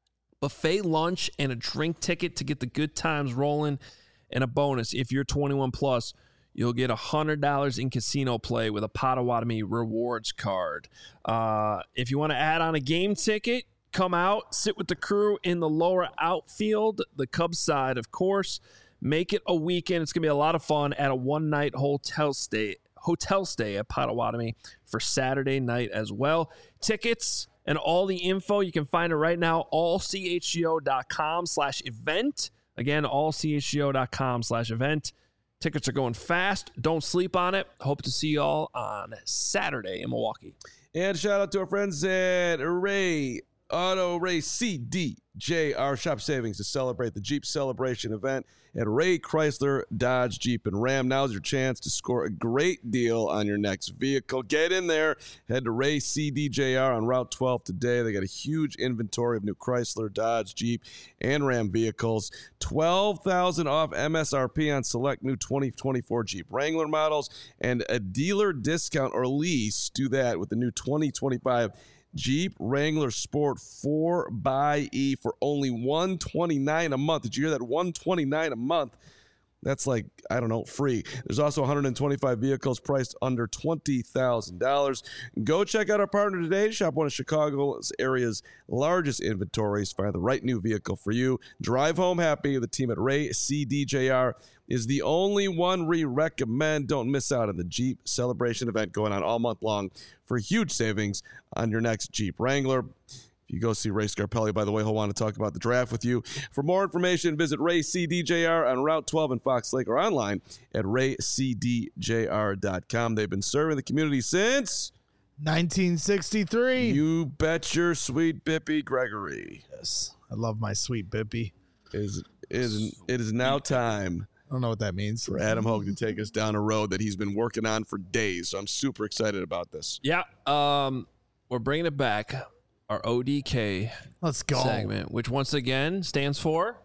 Buffet lunch and a drink ticket to get the good times rolling. And a bonus, if you're twenty-one plus, you'll get one hundred dollars in casino play with a Potawatomi rewards card. Uh, if you want to add on a game ticket, come out, sit with the crew in the lower outfield, the Cubs side, of course. Make it a weekend. It's going to be a lot of fun at a one-night hotel stay hotel stay at Potawatomi for Saturday night as well. Tickets and all the info, you can find it right now, all c h g o dot com slash event. Again, all c h g o dot com slash event. Tickets are going fast. Don't sleep on it. Hope to see y'all on Saturday in Milwaukee. And shout out to our friends at Ray Auto Race C D J R Shop Savings to celebrate the Jeep Celebration event at Ray Chrysler, Dodge, Jeep, and Ram. Now's your chance to score a great deal on your next vehicle. Get in there. Head to Ray C D J R on Route twelve today. They got a huge inventory of new Chrysler, Dodge, Jeep, and Ram vehicles. twelve thousand dollars off M S R P on select new twenty twenty-four Jeep Wrangler models and a dealer discount or lease. Do that with the new twenty twenty-five Jeep Wrangler Sport four by E for only one hundred twenty-nine dollars a month. Did you hear that? one hundred twenty-nine dollars a month. That's like, I don't know, free. There's also one hundred twenty-five vehicles priced under twenty thousand dollars. Go check out our partner today. Shop one of Chicago's area's largest inventories. Find the right new vehicle for you. Drive home happy. The team at Ray C D J R is the only one we recommend. Don't miss out on the Jeep Celebration event going on all month long for huge savings on your next Jeep Wrangler. If you go see Ray Scarpelli, by the way, he'll want to talk about the draft with you. For more information, visit Ray C D J R on Route twelve in Fox Lake or online at ray c d j r dot com. They've been serving the community since nineteen sixty-three. You bet your sweet Bippy Gregory. Yes, I love my sweet Bippy. It is, it is, it is now time I don't know what that means. for Adam Hogue to take us down a road that he's been working on for days. So I'm super excited about this. Yeah, um, we're bringing it back. Our O D K Let's go. segment, which once again stands for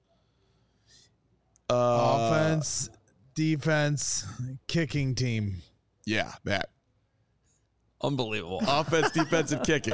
Uh, Offense, defense, kicking team. Yeah, that. unbelievable. Offense, defense, and kicking.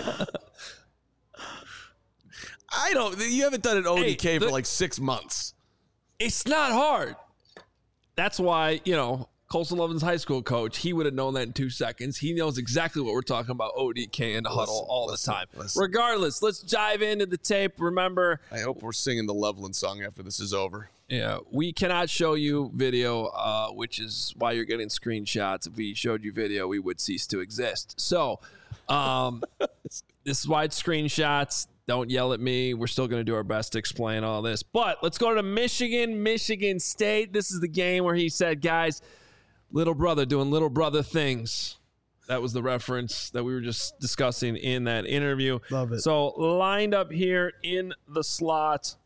I don't. You haven't done an O D K Hey, the- for like six months. It's not hard. That's why, you know, Colson Lovin's high school coach, he would have known that in two seconds. He knows exactly what we're talking about, O D K and the huddle Listen, all listen, the time. listen. Regardless, let's dive into the tape. Remember, I hope we're singing the Loveland song after this is over. yeah, we cannot show you video, uh, which is why you're getting screenshots. If we showed you video, we would cease to exist. So um, this is why it's screenshots. Don't yell at me. We're still going to do our best to explain all this. But let's go to Michigan, Michigan State. This is the game where he said, guys, little brother doing little brother things. That was the reference that we were just discussing in that interview. Love it. So lined up here in the slot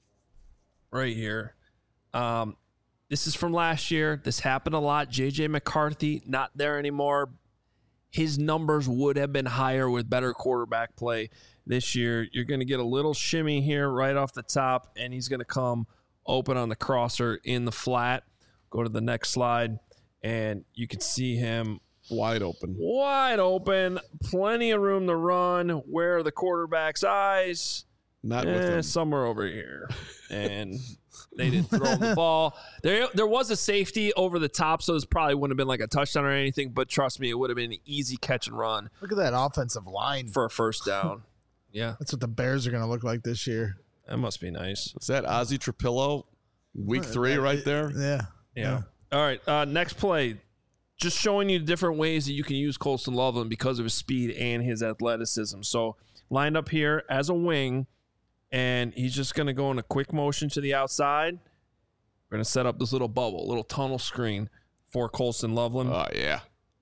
right here. Um, this is from last year. This happened a lot. J J McCarthy, not there anymore. His numbers would have been higher with better quarterback play this year. You're going to get a little shimmy here right off the top, and he's going to come open on the crosser in the flat. Go to the next slide, and you can see him Wide open. wide open. Plenty of room to run. Where are the quarterback's eyes? Not with Eh, him. somewhere over here. And they didn't throw him the ball. There there was a safety over the top, so this probably wouldn't have been like a touchdown or anything, but trust me, it would have been an easy catch and run Look at that offensive line. for a first down. Yeah, That's what the Bears are going to look like this year. that must be nice. Is that Ozzie Trapillo? Week three right there? Yeah. Yeah. All right, uh, next play. Just showing you different ways that you can use Colston Loveland because of his speed and his athleticism. So lined up here as a wing, and he's just going to go in a quick motion to the outside. We're going to set up this little bubble, little tunnel screen for Colston Loveland. Oh, yeah.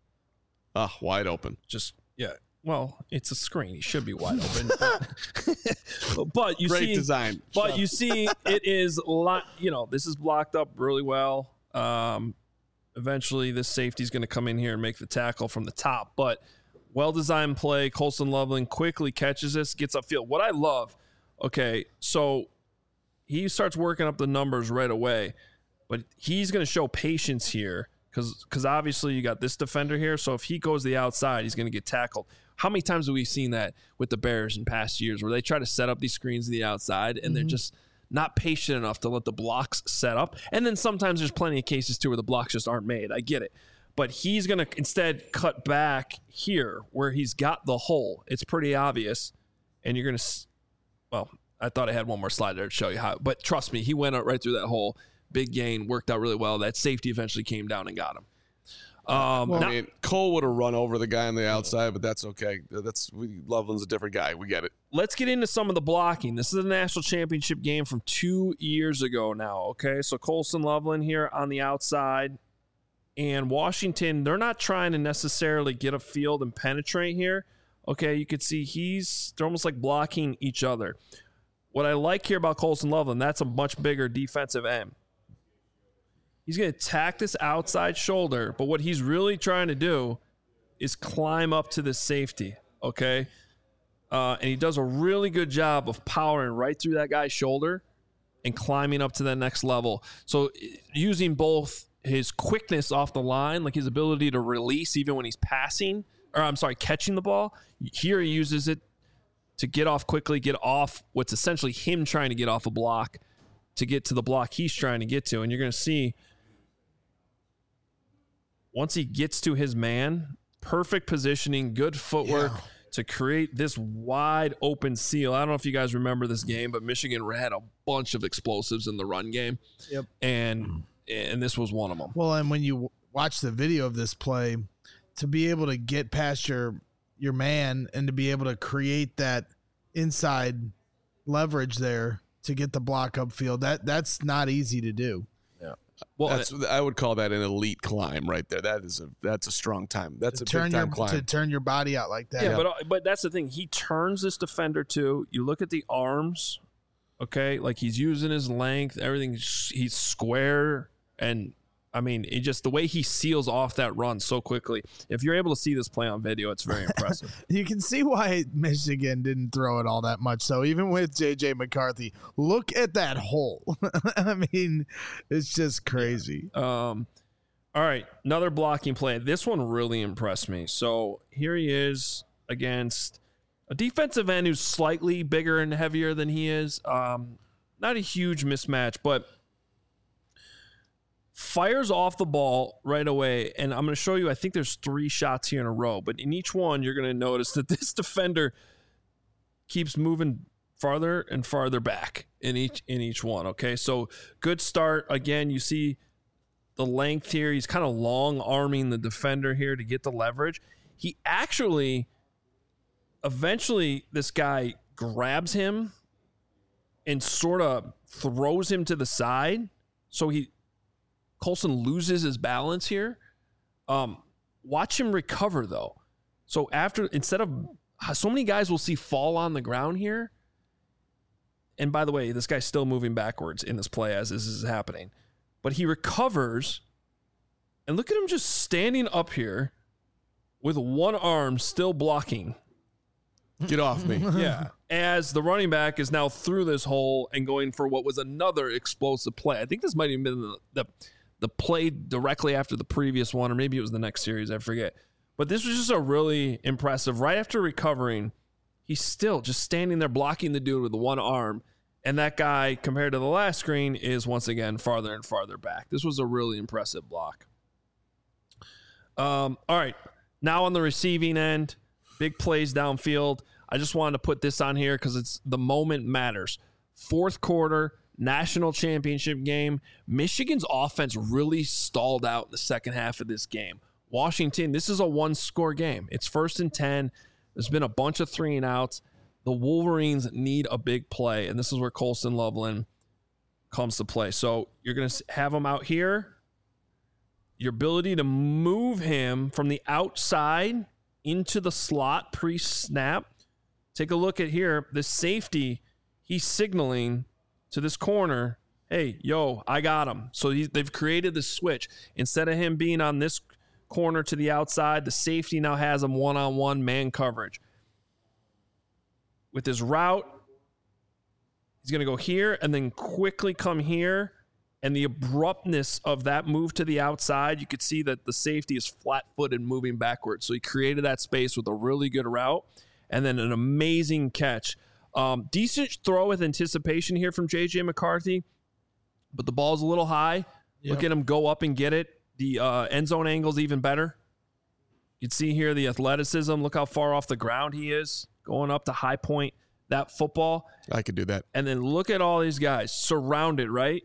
Ah, wide open. Just, yeah. Well, it's a screen. He should be wide open. But, but you Great see, design. but you see, it is a lot. You know, this is blocked up really well. Um, eventually, this safety is going to come in here and make the tackle from the top. But well-designed play. Colston Loveland quickly catches this, gets upfield. What I love, okay, so he starts working up the numbers right away. But he's going to show patience here because because obviously you got this defender here. So if he goes the outside, he's going to get tackled. How many times have we seen that with the Bears in past years where they try to set up these screens to the outside and mm-hmm. they're just not patient enough to let the blocks set up? And then sometimes there's plenty of cases too where the blocks just aren't made. I get it. But he's going to instead cut back here where he's got the hole. It's pretty obvious. And you're going to, well, I thought I had one more slide there to show you how. But trust me, he went out right through that hole. Big gain, worked out really well. That safety eventually came down and got him. Um, well, now, I mean, Cole would have run over the guy on the outside, but that's okay. That's we, Loveland's a different guy. We get it. Let's get into some of the blocking. This is a national championship game from two years ago now, okay? So Colson Loveland here on the outside. And Washington, they're not trying to necessarily get a field and penetrate here. Okay, you could see he's they're almost like blocking each other. What I like here about Colson Loveland, that's a much bigger defensive end. He's going to attack this outside shoulder, but what he's really trying to do is climb up to this safety, okay? Uh, and he does a really good job of powering right through that guy's shoulder and climbing up to that next level. So using both his quickness off the line, like his ability to release even when he's passing, or I'm sorry, catching the ball. Here he uses it to get off quickly, get off what's essentially him trying to get off a block to get to the block he's trying to get to. And you're going to see once he gets to his man, perfect positioning, good footwork yeah. to create this wide open seal. I don't know if you guys remember this game, but Michigan had a bunch of explosives in the run game. Yep. And and this was one of them. Well, and when you watch the video of this play, to be able to get past your your man and to be able to create that inside leverage there to get the block upfield, that that's not easy to do. Yeah. Well, that's, I would call that an elite climb right there. That is a that's a strong time. That's a turn big time your, climb. To turn your body out like that. Yeah, yeah, but but that's the thing. He turns this defender too. You look at the arms, okay? Like he's using his length, everything. He's square, and I mean, it just the way he seals off that run so quickly. If you're able to see this play on video, it's very impressive. You can see why Michigan didn't throw it all that much. So even with J J McCarthy, look at that hole. I mean, it's just crazy. Um, all right, another blocking play. This one really impressed me. So here he is against a defensive end who's slightly bigger and heavier than he is. Um, not a huge mismatch, but fires off the ball right away, and I'm going to show you, I think there's three shots here in a row, but in each one, you're going to notice that this defender keeps moving farther and farther back in each in each one, okay? So good start. Again, you see the length here. He's kind of long-arming the defender here to get the leverage. He actually, eventually, this guy grabs him and sort of throws him to the side, so he Colson loses his balance here. Um, watch him recover, though. So after, instead of, so many guys will see fall on the ground here. And by the way, this guy's still moving backwards in this play as this is happening. But he recovers, and look at him just standing up here with one arm still blocking. Get off me. Yeah. As the running back is now through this hole and going for what was another explosive play. I think this might have been the, the the play directly after the previous one, or maybe it was the next series, I forget. But this was just a really impressive. Right after recovering, he's still just standing there blocking the dude with the one arm, and that guy, compared to the last screen, is once again farther and farther back. This was a really impressive block. Um, all right, now on the receiving end, big plays downfield. I just wanted to put this on here because it's the moment matters. Fourth quarter, national championship game. Michigan's offense really stalled out in the second half of this game. Washington, this is a one-score game. It's first and ten. There's been a bunch of three and outs. The Wolverines need a big play, and this is where Colson Loveland comes to play. So you're going to have him out here. Your ability to move him from the outside into the slot pre-snap. Take a look at here. The safety, he's signaling to this corner, hey, yo, I got him. So he, they've created this switch. Instead of him being on this corner to the outside, the safety now has him one-on-one man coverage. With his route, he's going to go here and then quickly come here and the abruptness of that move to the outside, you could see that the safety is flat-footed moving backwards. So he created that space with a really good route and then an amazing catch. Um, decent throw with anticipation here from J J McCarthy, but the ball's a little high. Yep. Look at him go up and get it. The uh, end zone angle's even better. You can see here the athleticism. Look how far off the ground he is, going up to high point that football. I could do that. And then look at all these guys surrounded, right?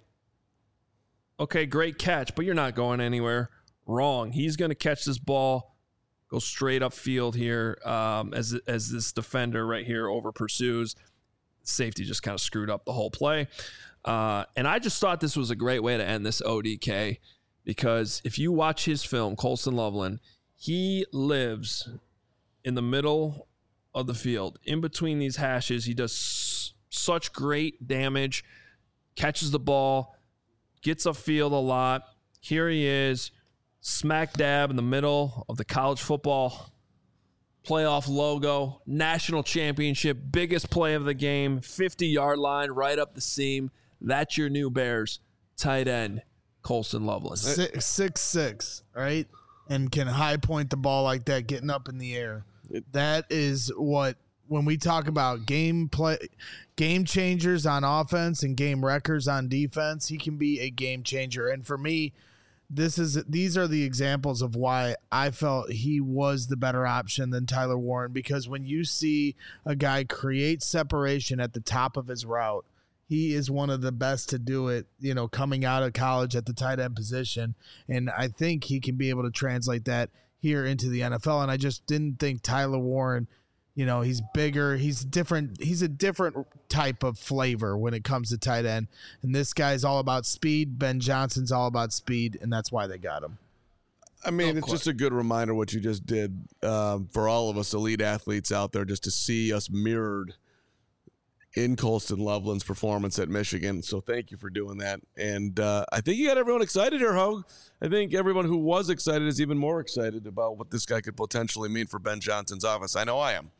Okay, great catch, but you're not going anywhere. Wrong. He's going to catch this ball, go straight upfield here um, as as this defender right here over pursues. Safety just kind of screwed up the whole play. Uh, and I just thought this was a great way to end this O D K, because if you watch his film, Colston Loveland, he lives in the middle of the field. In between these hashes, he does s- such great damage, catches the ball, gets upfield a lot. Here he is, smack dab in the middle of the college football playoff logo, national championship, biggest play of the game, fifty-yard line, right up the seam. That's your new Bears tight end, Colston Loveland. Six, six, six, right? And can high point the ball like that, getting up in the air. That is what, when we talk about game play, game changers on offense and game wreckers on defense, he can be a game changer. And for me, this is these are the examples of why I felt he was the better option than Tyler Warren, because when you see a guy create separation at the top of his route, he is one of the best to do it, you know, coming out of college at the tight end position. And I think he can be able to translate that here into the N F L. And I just didn't think Tyler Warren, you know, he's bigger. He's different. He's a different type of flavor when it comes to tight end. And this guy's all about speed. Ben Johnson's all about speed, and that's why they got him. I mean, it's just a good reminder what you just did um, for all of us elite athletes out there, just to see us mirrored in Colston Loveland's performance at Michigan. So thank you for doing that. And uh, I think you got everyone excited here, Hogue. I think everyone who was excited is even more excited about what this guy could potentially mean for Ben Johnson's offense. I know I am.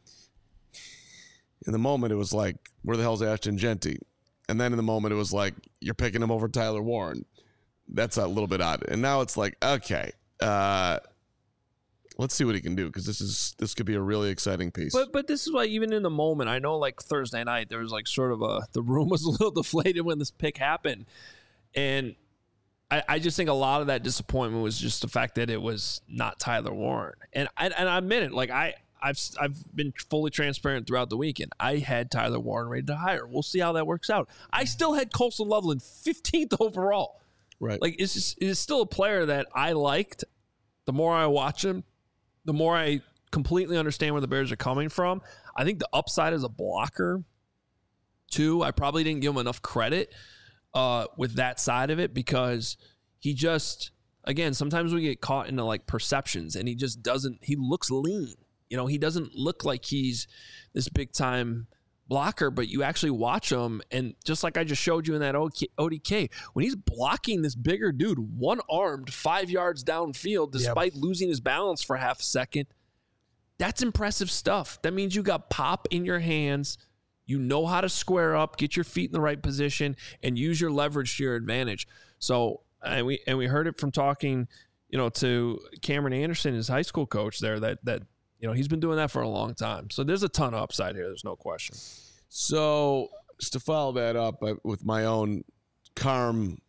In the moment, it was like, where the hell's Ashton Genty? And then in the moment, it was like, you're picking him over Tyler Warren. That's a little bit odd. And now it's like, okay, uh, let's see what he can do, because this is this could be a really exciting piece. But but this is why even in the moment, I know like Thursday night there was like sort of a the room was a little deflated when this pick happened, and I, I just think a lot of that disappointment was just the fact that it was not Tyler Warren. And I and I admit it, like I I've I've been fully transparent throughout the weekend. I had Tyler Warren ready to hire. We'll see how that works out. I still had Colston Loveland fifteenth overall. Right, like it's just it's still a player that I liked. The more I watch him, the more I completely understand where the Bears are coming from. I think the upside as a blocker, too, I probably didn't give him enough credit uh, with that side of it, because he just, again, sometimes we get caught into like perceptions, and he just doesn't, he looks lean. You know, he doesn't look like he's this big time blocker, but you actually watch him, and just like I just showed you in that O D K, when he's blocking this bigger dude, one-armed, five yards downfield, despite yep. losing his balance for half a second, that's impressive stuff. That means you got pop in your hands, you know how to square up, get your feet in the right position, and use your leverage to your advantage. So, and we and we heard it from talking, you know, to Cameron Anderson, his high school coach there, that that you know, he's been doing that for a long time. So there's a ton of upside here. There's no question. So just to follow that up with my own Carm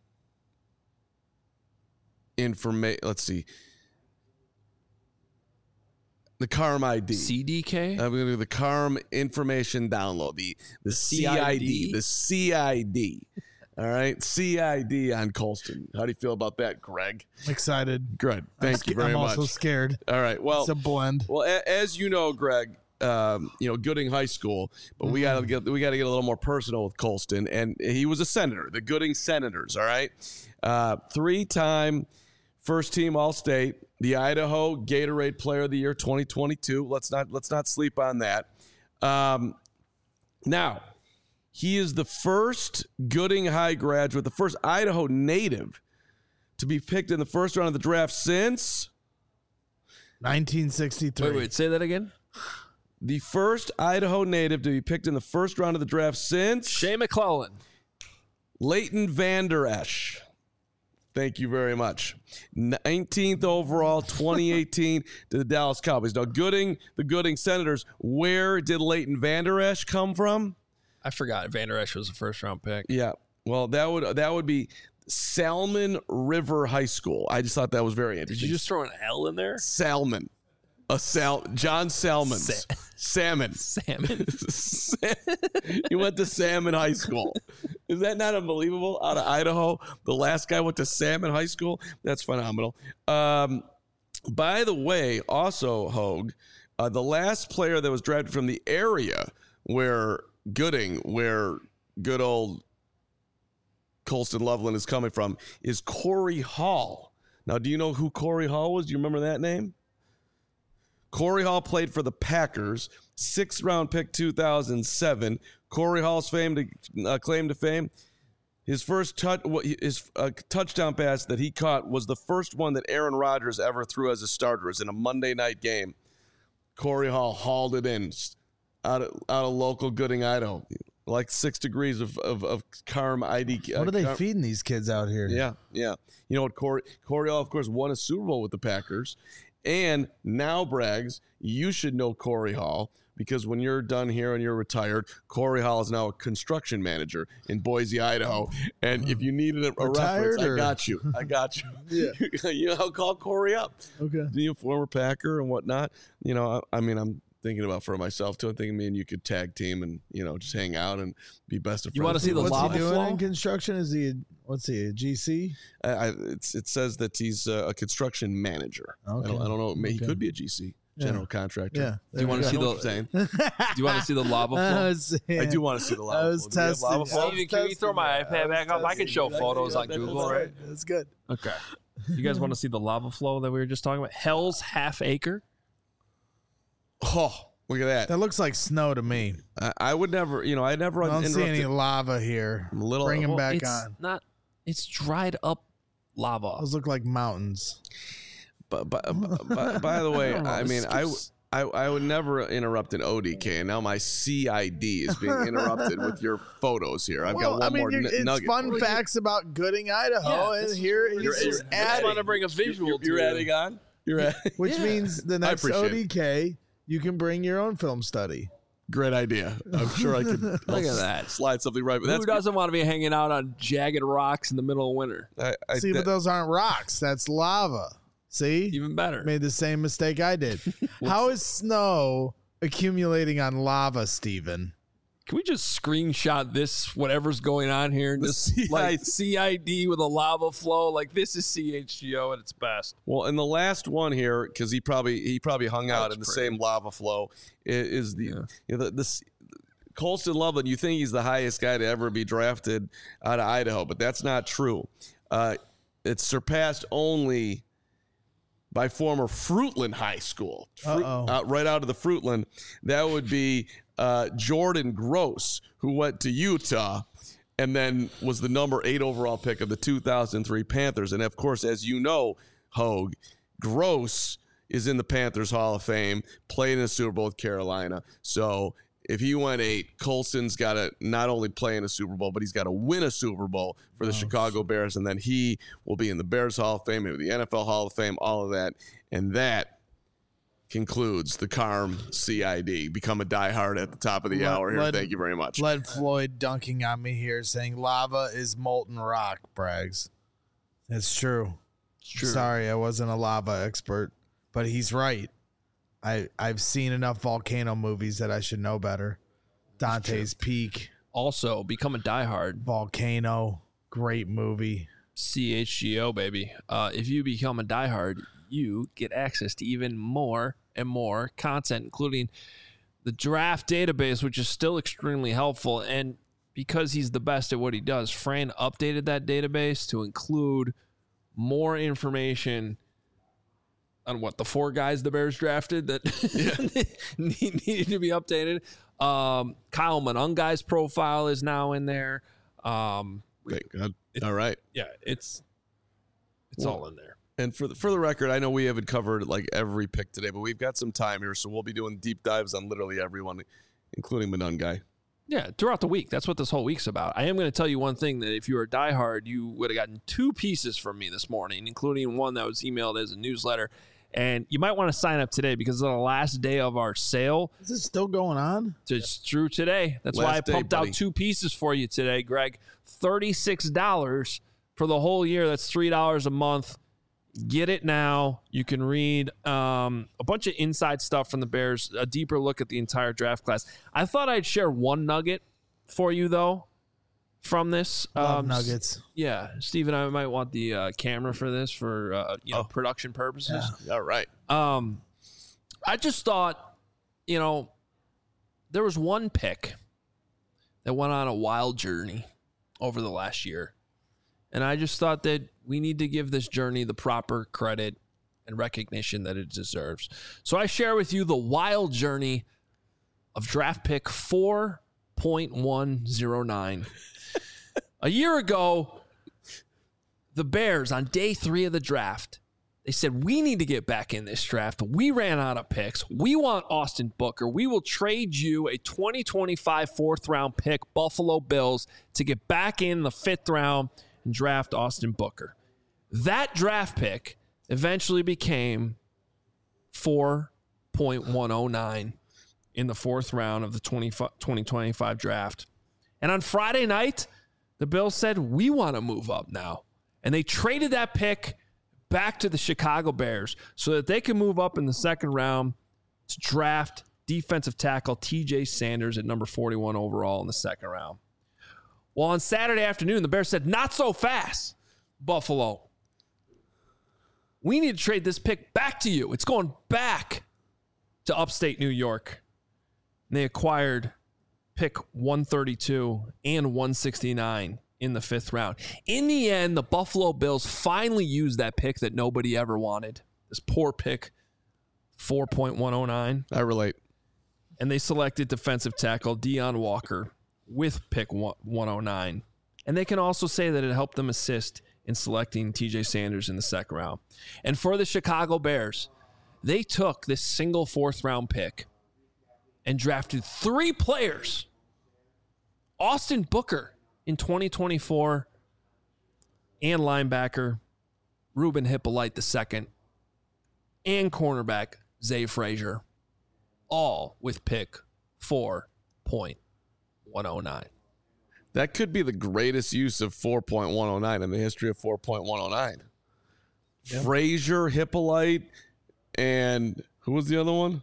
information, let's see. The Carm I D. C D K? I'm going to do the Carm information download. The, the C I D. The C I D. All right, C I D on Colston. How do you feel about that, Greg? I'm excited. Good. Thank I'm you very I'm much. I'm also scared. All right. Well, it's a blend. Well, a, as you know, Greg, um, you know Gooding High School, but mm-hmm. we got to get we got to get a little more personal with Colston, and he was a senator, the Gooding Senators. All right, uh, three-time first-team All-State, the Idaho Gatorade Player of the Year twenty twenty-two. Let's not let's not sleep on that. Um, now. He is the first Gooding High graduate, the first Idaho native to be picked in the first round of the draft since nineteen sixty-three. Wait, wait, say that again. The first Idaho native to be picked in the first round of the draft since Shea McClellan. Leighton Vander Esch. Thank you very much. nineteenth overall, twenty eighteen to the Dallas Cowboys. Now, Gooding, the Gooding Senators, where did Leighton Vander Esch come from? I forgot Vander Esch was a first round pick. Yeah. Well, that would that would be Salmon River High School. I just thought that was very interesting. Did you just throw an L in there? Salmon. A sal John Salmon's. Sa- Salmon. Salmon. He went to Salmon High School. Is that not unbelievable? Out of Idaho, the last guy went to Salmon High School. That's phenomenal. Um, by the way, also, Hogue, uh, the last player that was drafted from the area where Gooding, where good old Colston Loveland is coming from, is Corey Hall. Now, do you know who Corey Hall was? Do you remember that name? Corey Hall played for the Packers, sixth round pick, two thousand seven. Corey Hall's fame to, uh, claim to fame. His first touch, his uh, touchdown pass that he caught was the first one that Aaron Rodgers ever threw as a starter. It was in a Monday night game. Corey Hall hauled it in out of, out of local Gooding, Idaho. Like six degrees of of, of Carm I D. Uh, What are they Carm, feeding these kids out here? Yeah, yeah. You know what? Corey, Corey Hall, of course, won a Super Bowl with the Packers. And now, Braggs, you should know Corey Hall because when you're done here and you're retired, Corey Hall is now a construction manager in Boise, Idaho. And if you needed a, a reference, or? I got you. I got you. Yeah. You know, I'll call Corey up. Okay. You know, former Packer and whatnot. You know, I, I mean, I'm thinking about for myself too. I'm thinking me and you could tag team and, you know, just hang out and be best of friends. You want to see the What's lava he doing flow? in construction? Is he? A, what's he? A G C? I, I, it's, it says that he's a, a construction manager. Okay. I, don't, I don't know. He Okay. could be a G C, general Yeah. contractor. Yeah. Do you want to I see know what you're the? saying. Do you want to see the lava I flow? was, I do want to see the lava I was flow. Do we have lava testing. flow? I was Steven, can you throw my testing. iPad I was back up? I can show testing. photos on That's Google, right. right? That's good. Okay. You guys want to see the lava flow that we were just talking about? Hell's Half Acre. Oh, look at that. That looks like snow to me. I, I would never, you know, I never I don't see any interrupted. lava here. I'm a little- Bring him well, back it's on. not. It's dried up lava. Those look like mountains. But, but, but, but by the way, I don't know, I this mean, I, skips- I I would never interrupt an O D K, and now my C I D is being interrupted with your photos here. I've Well, got one I mean, more you're- n- it's nugget. fun facts about Gooding, Idaho, Yeah, and that's- here he's you're- just you're- I just want adding, to bring a visual. You're, you're to adding you. on. You're at which Yeah. means the next appreciate O it. D K, you can bring your own film study. Great idea. I'm sure I could. Look at that. Slide something right. But Who that's doesn't want to be hanging out on jagged rocks in the middle of winter? I, I, See, that- but those aren't rocks. That's lava. See? Even better. Made the same mistake I did. How is snow accumulating on lava, Steven? Can we just screenshot this, whatever's going on here, and The just C I D. like C I D with a lava flow? Like, this is C H G O at its best. Well, and the last one here, because he probably he probably hung out That's in the pretty. same lava flow, i- is the Yeah. you know, the, this Colston Loveland. You think he's the highest guy to ever be drafted out of Idaho, but that's not true. Uh, it's surpassed only by former Fruitland High School, Fruit, Uh-oh. uh, right out of the Fruitland. That would be uh, Jordan Gross, who went to Utah and then was the number eight overall pick of the two thousand three Panthers. And of course, as you know, Hogue, Gross is in the Panthers Hall of Fame, played in the Super Bowl with Carolina. So if he went eight, Colston's got to not only play in a Super Bowl, but he's got to win a Super Bowl for the Chicago Bears. And then he will be in the Bears Hall of Fame, maybe the N F L Hall of Fame, all of that. And that concludes the Carm C I D. Become a diehard at the top of the Let- hour here. let- Thank you very much. Lead Floyd dunking on me here saying lava is molten rock, Braggs. It's true. True. Sorry, I wasn't a lava expert, but he's right. I I've seen enough volcano movies that I should know better. Dante's Peak, Also, become a diehard. Volcano, great movie. C H G O, baby. Uh, if you become a diehard, you get access to even more and more content, including the draft database, which is still extremely helpful. And because he's the best at what he does, Fran updated that database to include more information on what the four guys the Bears drafted that need- needed to be updated. Um, Kyle Monungai's profile is now in there. Um, Thank God. All right. yeah, it's it's Well, all in there. And for the, for the record, I know we haven't covered like every pick today, but we've got some time here, so we'll be doing deep dives on literally everyone, including Monungai. Yeah, throughout the week. That's what this whole week's about. I am going to tell you one thing, that if you were a diehard, you would have gotten two pieces from me this morning, including one that was emailed as a newsletter. And you might want to sign up today because it's the last day of our sale. Is this still going on? It's through today. That's Last why I day, pumped buddy. out two pieces for you today, Greg. thirty-six dollars for the whole year. That's three dollars a month. Get it now. You can read um, a bunch of inside stuff from the Bears, a deeper look at the entire draft class. I thought I'd share one nugget for you, though, from this. Love Um, nuggets. Yeah, Steven, I might want the uh, camera for this for uh, you know Oh. production purposes. All right. Um, I just thought, you know, there was one pick that went on a wild journey over the last year. And I just thought that we need to give this journey the proper credit and recognition that it deserves. So I share with you the wild journey of draft pick four point one oh nine. A year ago, the Bears on day three of the draft, they said, we need to get back in this draft. We ran out of picks. We want Austin Booker. We will trade you a twenty twenty-five fourth round pick, Buffalo Bills, to get back in the fifth round and draft Austin Booker. That draft pick eventually became four point one oh nine in the fourth round of the twenty twenty-five draft. And on Friday night, the Bills said, we want to move up now. And they traded that pick back to the Chicago Bears so that they can move up in the second round to draft defensive tackle T J Sanders at number forty-one overall in the second round. Well, on Saturday afternoon, the Bears said, not so fast, Buffalo. We need to trade this pick back to you. It's going back to upstate New York. And they acquired pick one thirty-two and one sixty-nine in the fifth round. In the end, the Buffalo Bills finally used that pick that nobody ever wanted. This poor pick, four point one oh nine. I relate. And they selected defensive tackle Deion Walker with pick one oh nine. And they can also say that it helped them assist in selecting T J Sanders in the second round. And for the Chicago Bears, they took this single fourth round pick and drafted three players. Austin Booker in twenty twenty-four and linebacker Ruben Hippolyte the second and cornerback Zay Frazier, all with pick four point one oh nine. That could be the greatest use of four point one oh nine in the history of four point one oh nine. Yep. Frazier, Hippolyte, and who was the other one?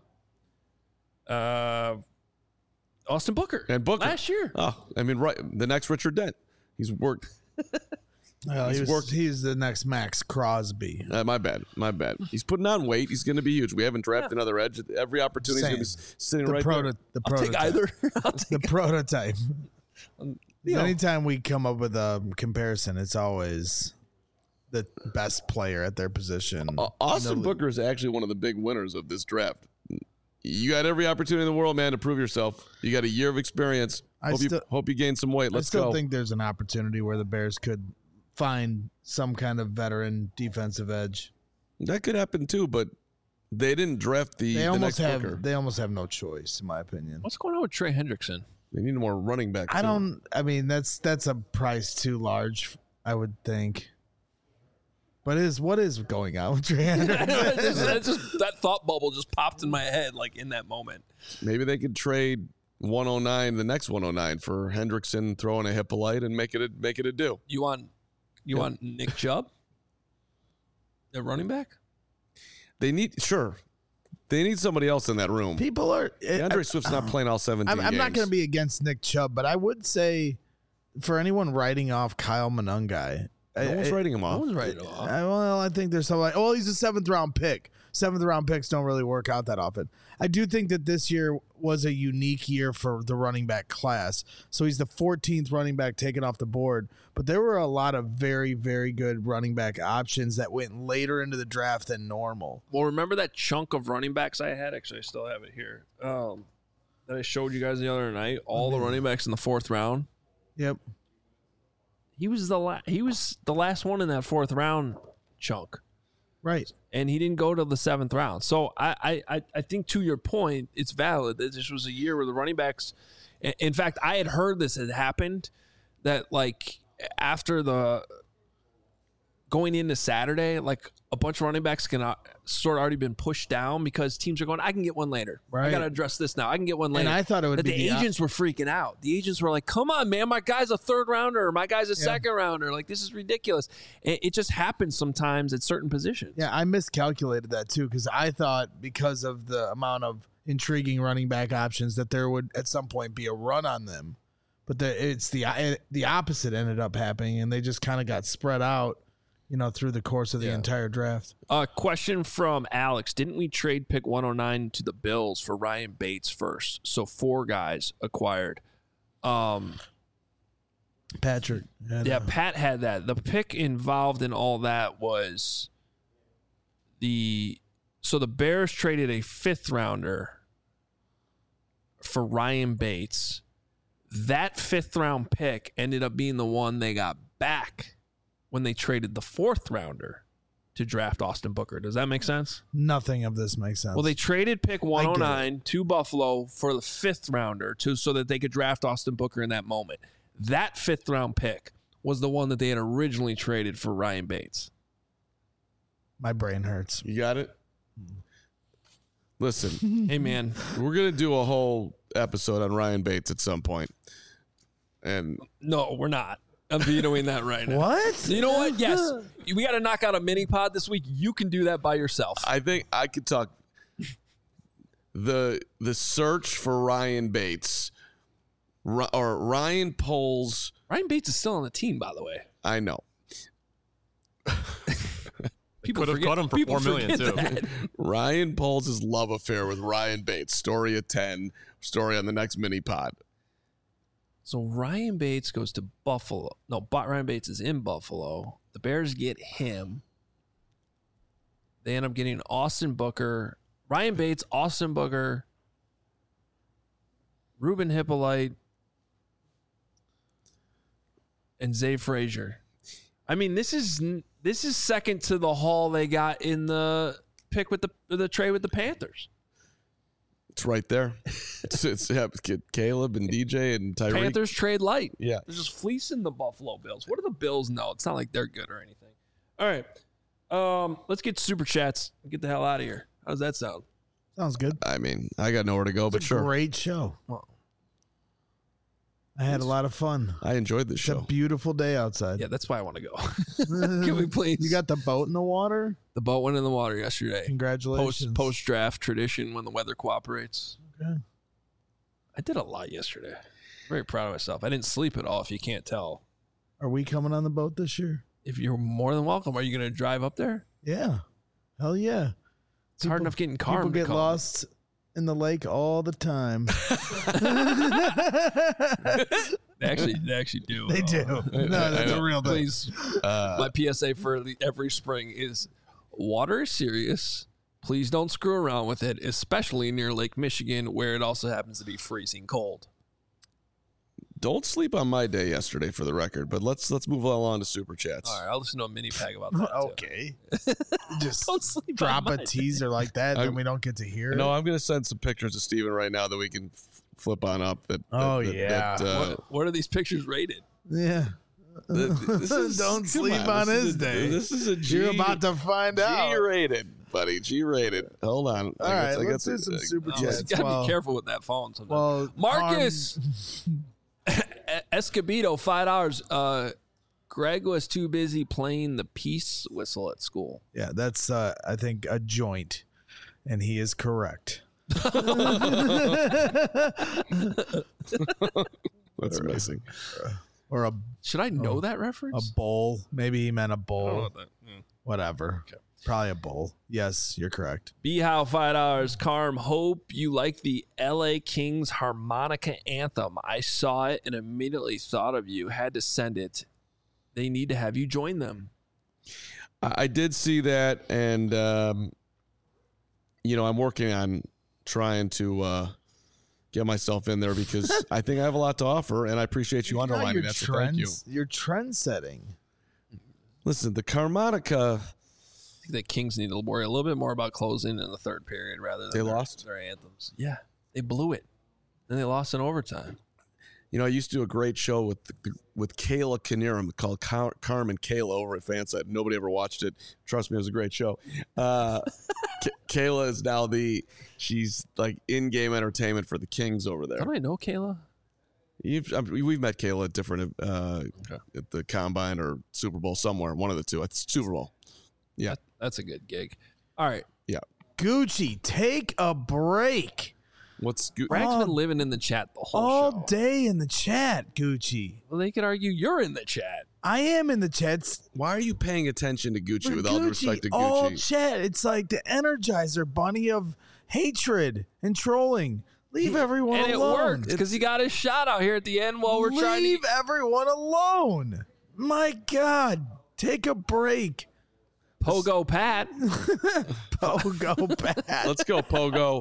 Uh, Austin Booker. And Booker. Last year. Oh, I mean, right. The next Richard Dent. He's worked. Well, He's he was, worked- he's the next Max Crosby. Uh, my bad. My bad. He's putting on weight. He's going to be huge. We haven't drafted another edge. Every opportunity is going to be sitting The, right proto- there. the I'll take prototype. either. I'll take The prototype. You know. Anytime we come up with a comparison, it's always the best player at their position. Uh, Austin In the- Booker is actually one of the big winners of this draft. You got every opportunity in the world, man, to prove yourself. You got a year of experience. I Hope, still- you, hope you gain some weight. I Let's still go. think there's an opportunity where the Bears could find some kind of veteran defensive edge. That could happen too, but they didn't draft the, They the almost next have. Booker. They almost have no choice, in my opinion. What's going on with Trey Hendrickson? They need more running back. I too. don't. I mean, that's that's a price too large, I would think. But is what is going on with Trey Hendrickson? That just- that just- that thought bubble just popped in my head like in that moment. Maybe they could trade one oh nine, the next one oh nine for Hendrickson, throw in a Hippolyte, and make it a, make it a do. You want you Yeah. want Nick Chubb? The running back? They need sure. They need somebody else in that room. People are. DeAndre Swift's not playing all seventeen I'm, I'm not games. going to be against Nick Chubb, but I would say for anyone writing off Kyle Monungai, No one's I, writing him off. No one's right off. I, well, I think there's some like, oh, he's a seventh round pick. Seventh round picks don't really work out that often. I do think that this year was a unique year for the running back class. So he's the fourteenth running back taken off the board, but there were a lot of very, very good running back options that went later into the draft than normal. Well, remember that chunk of running backs I had? Actually, I still have it here. Um, that I showed you guys the other night. All the running backs in the fourth round. Yep. He was the la- he was the last one in that fourth round chunk, Right. and he didn't go to the seventh round. So I I I- I think to your point, it's valid that this was a year where the running backs In, in fact, I had heard this had happened, that like after the going into Saturday, like a bunch of running backs can uh, sort of already been pushed down because teams are going, I can get one later. Right. I got to address this now. I can get one later. And I thought it would that be the the op- agents were freaking out. The agents were like, come on, man, my guy's a third rounder. Or my guy's a Yeah. second rounder. Like, this is ridiculous. It, it just happens sometimes at certain positions. Yeah, I miscalculated that too because I thought because of the amount of intriguing running back options that there would at some point be a run on them, but the, it's the the opposite ended up happening, and they just kind of got spread out, you know, through the course of the Yeah. entire draft. A uh, question from Alex. Didn't we trade pick one oh nine to the Bills for Ryan Bates first? So four guys acquired. Um, Patrick, had, yeah, uh, Pat had that. The pick involved in all that was the so the Bears traded a fifth rounder for Ryan Bates. That fifth round pick ended up being the one they got back when they traded the fourth rounder to draft Austin Booker. Does that make sense? nothing of this makes sense. Well, they traded pick one oh I nine to Buffalo for the fifth rounder to so that they could draft Austin Booker in that moment. That fifth round pick was the one that they had originally traded for Ryan Bates. my brain hurts. You got it? Listen, Hey, man. we're going to do a whole episode on Ryan Bates at some point. And No, we're not. I'm vetoing that right now. What? You know what? Yes. We got to knock out a mini pod this week. You can do that by yourself. I think I could talk the the search for Ryan Bates Ri- or Ryan Poles. Ryan Bates is still on the team, by the way. I know. People Could have forget, cut him for people four million forget too. that. Ryan Poles' love affair with Ryan Bates. Story at ten. Story on the next mini pod. So Ryan Bates goes to Buffalo. No, but Ryan Bates is in Buffalo. The Bears get him. They end up getting Austin Booker, Ryan Bates, Austin Booker, Ruben Hippolyte, and Zay Frazier. I mean, this is this is second to the haul they got in the pick with the the trade with the Panthers. It's right there. It's, it's yeah, Caleb and D J and Tyreek. Panthers trade light. Yeah. They're just fleecing the Buffalo Bills. What do the Bills know? It's not like they're good or anything. All right. Um, let's get super chats and get the hell out of here. How does that sound? Sounds good. I mean, I got nowhere to go, but It's a sure. great show. Well, I had a lot of fun. I enjoyed this It's show. a beautiful day outside. yeah, that's why I want to go. Can we please? You got the boat in the water? the boat went in the water yesterday. Congratulations. Post post draft tradition when the weather cooperates. Okay. I did a lot yesterday. Very proud of myself. I didn't sleep at all. If you can't tell, Are we coming on the boat this year? if you're more than welcome, are you going to drive up there? Yeah. Hell yeah. It's hard People- enough getting car. People get lost in the lake all the time. They actually, they actually do. They do. No, that's a real thing. Please, Uh, my P S A for the- every spring is water is serious. Please don't screw around with it, especially near Lake Michigan, where it also happens to be freezing cold. don't sleep on my day yesterday, for the record. But let's let's move along to super chats. All right, I'll listen to a mini pag about that. too. Okay. Just Don't sleep drop on a my teaser like that, I- then we don't get to hear No, it. I'm going to send some pictures to Steven right now that we can f- flip on up. That, that Oh, that- yeah. that, uh, What, what are these pictures rated? Yeah. th- this is- Don't come sleep on this his is a- day. This is a G. You're about to find out. G rated, buddy. G rated. Hold on. All right, let's do some super Oh, you chats. gotta Well- be careful with that phone sometimes. Well, Marcus Escobedo, five dollars. Uh, Greg was too busy playing the peace whistle at school. Yeah, that's uh, I think a joint, and he is correct. That's amazing. Or a Should I know Oh, that a reference? bowl. Maybe he meant a I don't know bowl. what that- hmm. Whatever. Okay. Probably a bowl. Yes, you're correct. B-How, five dollars. Carm, hope you like the L A Kings harmonica anthem. I saw it and immediately thought of you. Had to send it. They need to have you join them. I, I did see that, and um, you know, I'm working on trying to uh, get myself in there because I think I have a lot to offer, and I appreciate you underlining your that. So thank you. trends, You're trend setting. Listen, the harmonica. I think the Kings need to worry a little bit more about closing in the third period rather than They their, lost? their anthems. Yeah, they blew it. Then they lost in overtime. You know, I used to do a great show with with Kayla Knierim called Car- Carmen Kayla over at Fanside. Nobody ever watched it. Trust me, it was a great show. Uh, K- Kayla is now the she's like in-game entertainment for the Kings over there. How do I know Kayla? You've, I mean, we've met Kayla at different uh, Okay. at the Combine or Super Bowl somewhere. One of the two. It's Super Bowl. Yeah, That, that's a good gig. All right. yeah. Gucci, take a break. What's good? Bragg's All- been living in the chat the whole All show. day in the chat, Gucci. Well, they could argue you're in the chat. I am in the chats. Why are you paying attention to Gucci? For With all due Gucci, respect to all Gucci, chat. It's like the Energizer bunny of hatred and trolling. Leave everyone And it alone. worked because he got his shot out here at the end while we're Leave trying to. everyone alone. My God, take a break. Pogo Pat. Pogo Pat. let's go Pogo.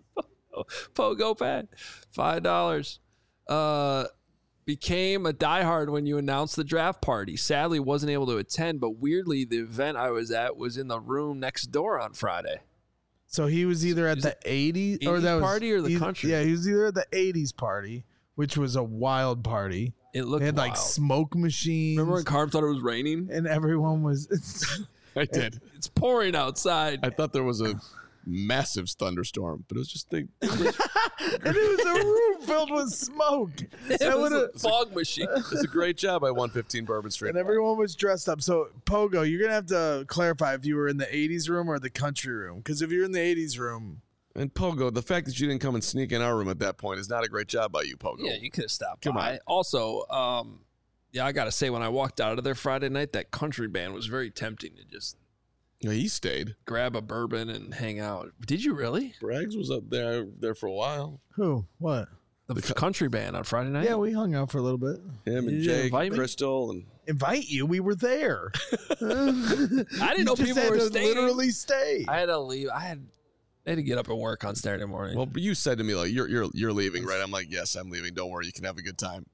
Pogo Pat. Five dollars. Uh, became a diehard when you announced the draft party. Sadly, wasn't able to attend, but weirdly, the event I was at was in the room next door on Friday. So he was either at Is the it eighties or eighties that was, party or the he- country? Yeah, he was either at the eighties party, which was a wild party. It looked They had wild. like smoke machines. Remember when Carm thought it was raining? and everyone was I did. It's pouring outside. I thought there was a massive thunderstorm, but it was just the. and it was a room filled with smoke. It That was would've- a fog machine. It's a great job by one fifteen Bourbon Street. And everyone was dressed up. So, Pogo, you're going to have to clarify if you were in the eighties room or the country room. Because if you're in the eighties room, And Pogo, the fact that you didn't come and sneak in our room at that point is not a great job by you, Pogo. Yeah, you could have stopped Come by. on. Also, um, yeah, I got to say, when I walked out of there Friday night, that country band was very tempting to just Yeah, he stayed. grab a bourbon and hang out. Did you really? Braggs was up there there for a while. who? What? The, country band on Friday night? Yeah, we hung out for a little bit. Him and You didn't Jake, invite me? Crystal, and Invite you? We were there. I didn't know You just people had were to staying. literally stay. I had to leave. I had, I had to get up and work on Saturday morning. well, you said to me like, "You're you're you're leaving, right?" I'm like, "Yes, I'm leaving. Don't worry, you can have a good time."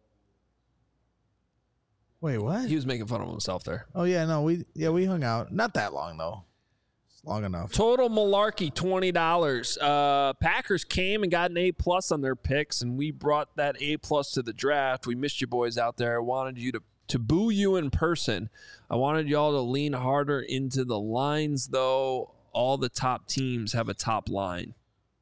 Wait, what? he was making fun of himself there. Oh yeah, no, we yeah we hung out. Not that long though. It's long enough. Total malarkey, twenty dollars. Uh, Packers came and got an A plus on their picks, and we brought that A plus to the draft. We missed you boys out there. I wanted you to to boo you in person. I wanted y'all to lean harder into the lines, though. All the top teams have a top line.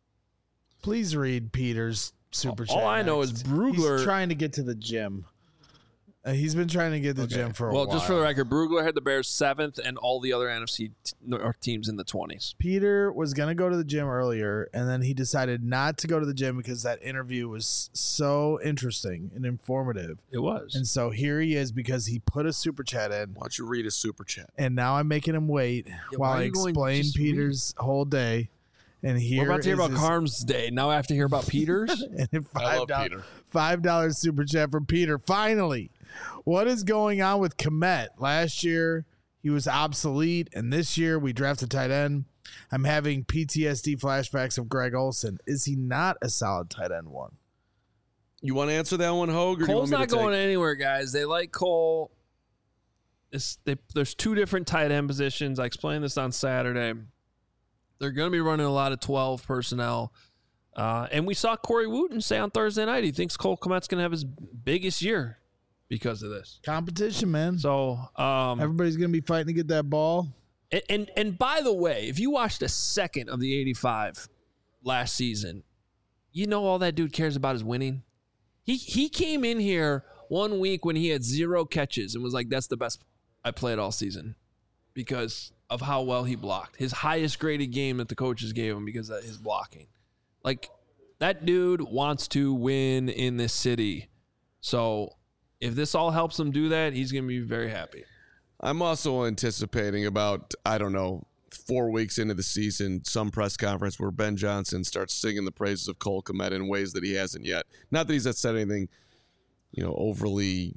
Please read Peter's super chat. All I know is next. Brugler- He's trying to get to the gym. Uh, he's been trying to get to the gym for a Well, while. just for the record, Brugler had the Bears seventh, and all the other N F C t- North teams in the twenties. Peter was going to go to the gym earlier, and then he decided not to go to the gym because that interview was so interesting and informative. It was. And so here he is because he put a super chat in, Why don't you read a super chat? and now I'm making him wait while why are I you going explain just Peter's whole day. And here We're about to hear is about his- Carm's day. Now I have to hear about Peter's. and a I five love dollars Peter. five dollars super chat from Peter. Finally, what is going on with Komet? Last year he was obsolete, and this year we drafted tight end. I'm having P T S D flashbacks of Greg Olson. Is he not a solid tight end one? You want to answer that one, Hogue? Or do you Cole's want me not to going take- anywhere, guys. They like Cole. It's, they, there's two different tight end positions. I explained this on Saturday. They're going to be running a lot of twelve personnel. Uh, and we saw Corey Wooten say on Thursday night he thinks Cole Kmet's going to have his biggest year because of this. Competition, man. So, um, Everybody's gonna be fighting to get that ball. and, and and by the way, if you watched a second of the eighty-five last season, you know all that dude cares about is winning. He he came in here one week when he had zero catches and was like, "That's the best I played all season," because of how well he blocked. His highest graded game that the coaches gave him because of his blocking. Like, that dude wants to win in this city. So if this all helps him do that, he's going to be very happy. I'm also anticipating about, I don't know, four weeks into the season, some press conference where Ben Johnson starts singing the praises of Cole Kmet in ways that he hasn't yet. Not that he's not said anything, you know, overly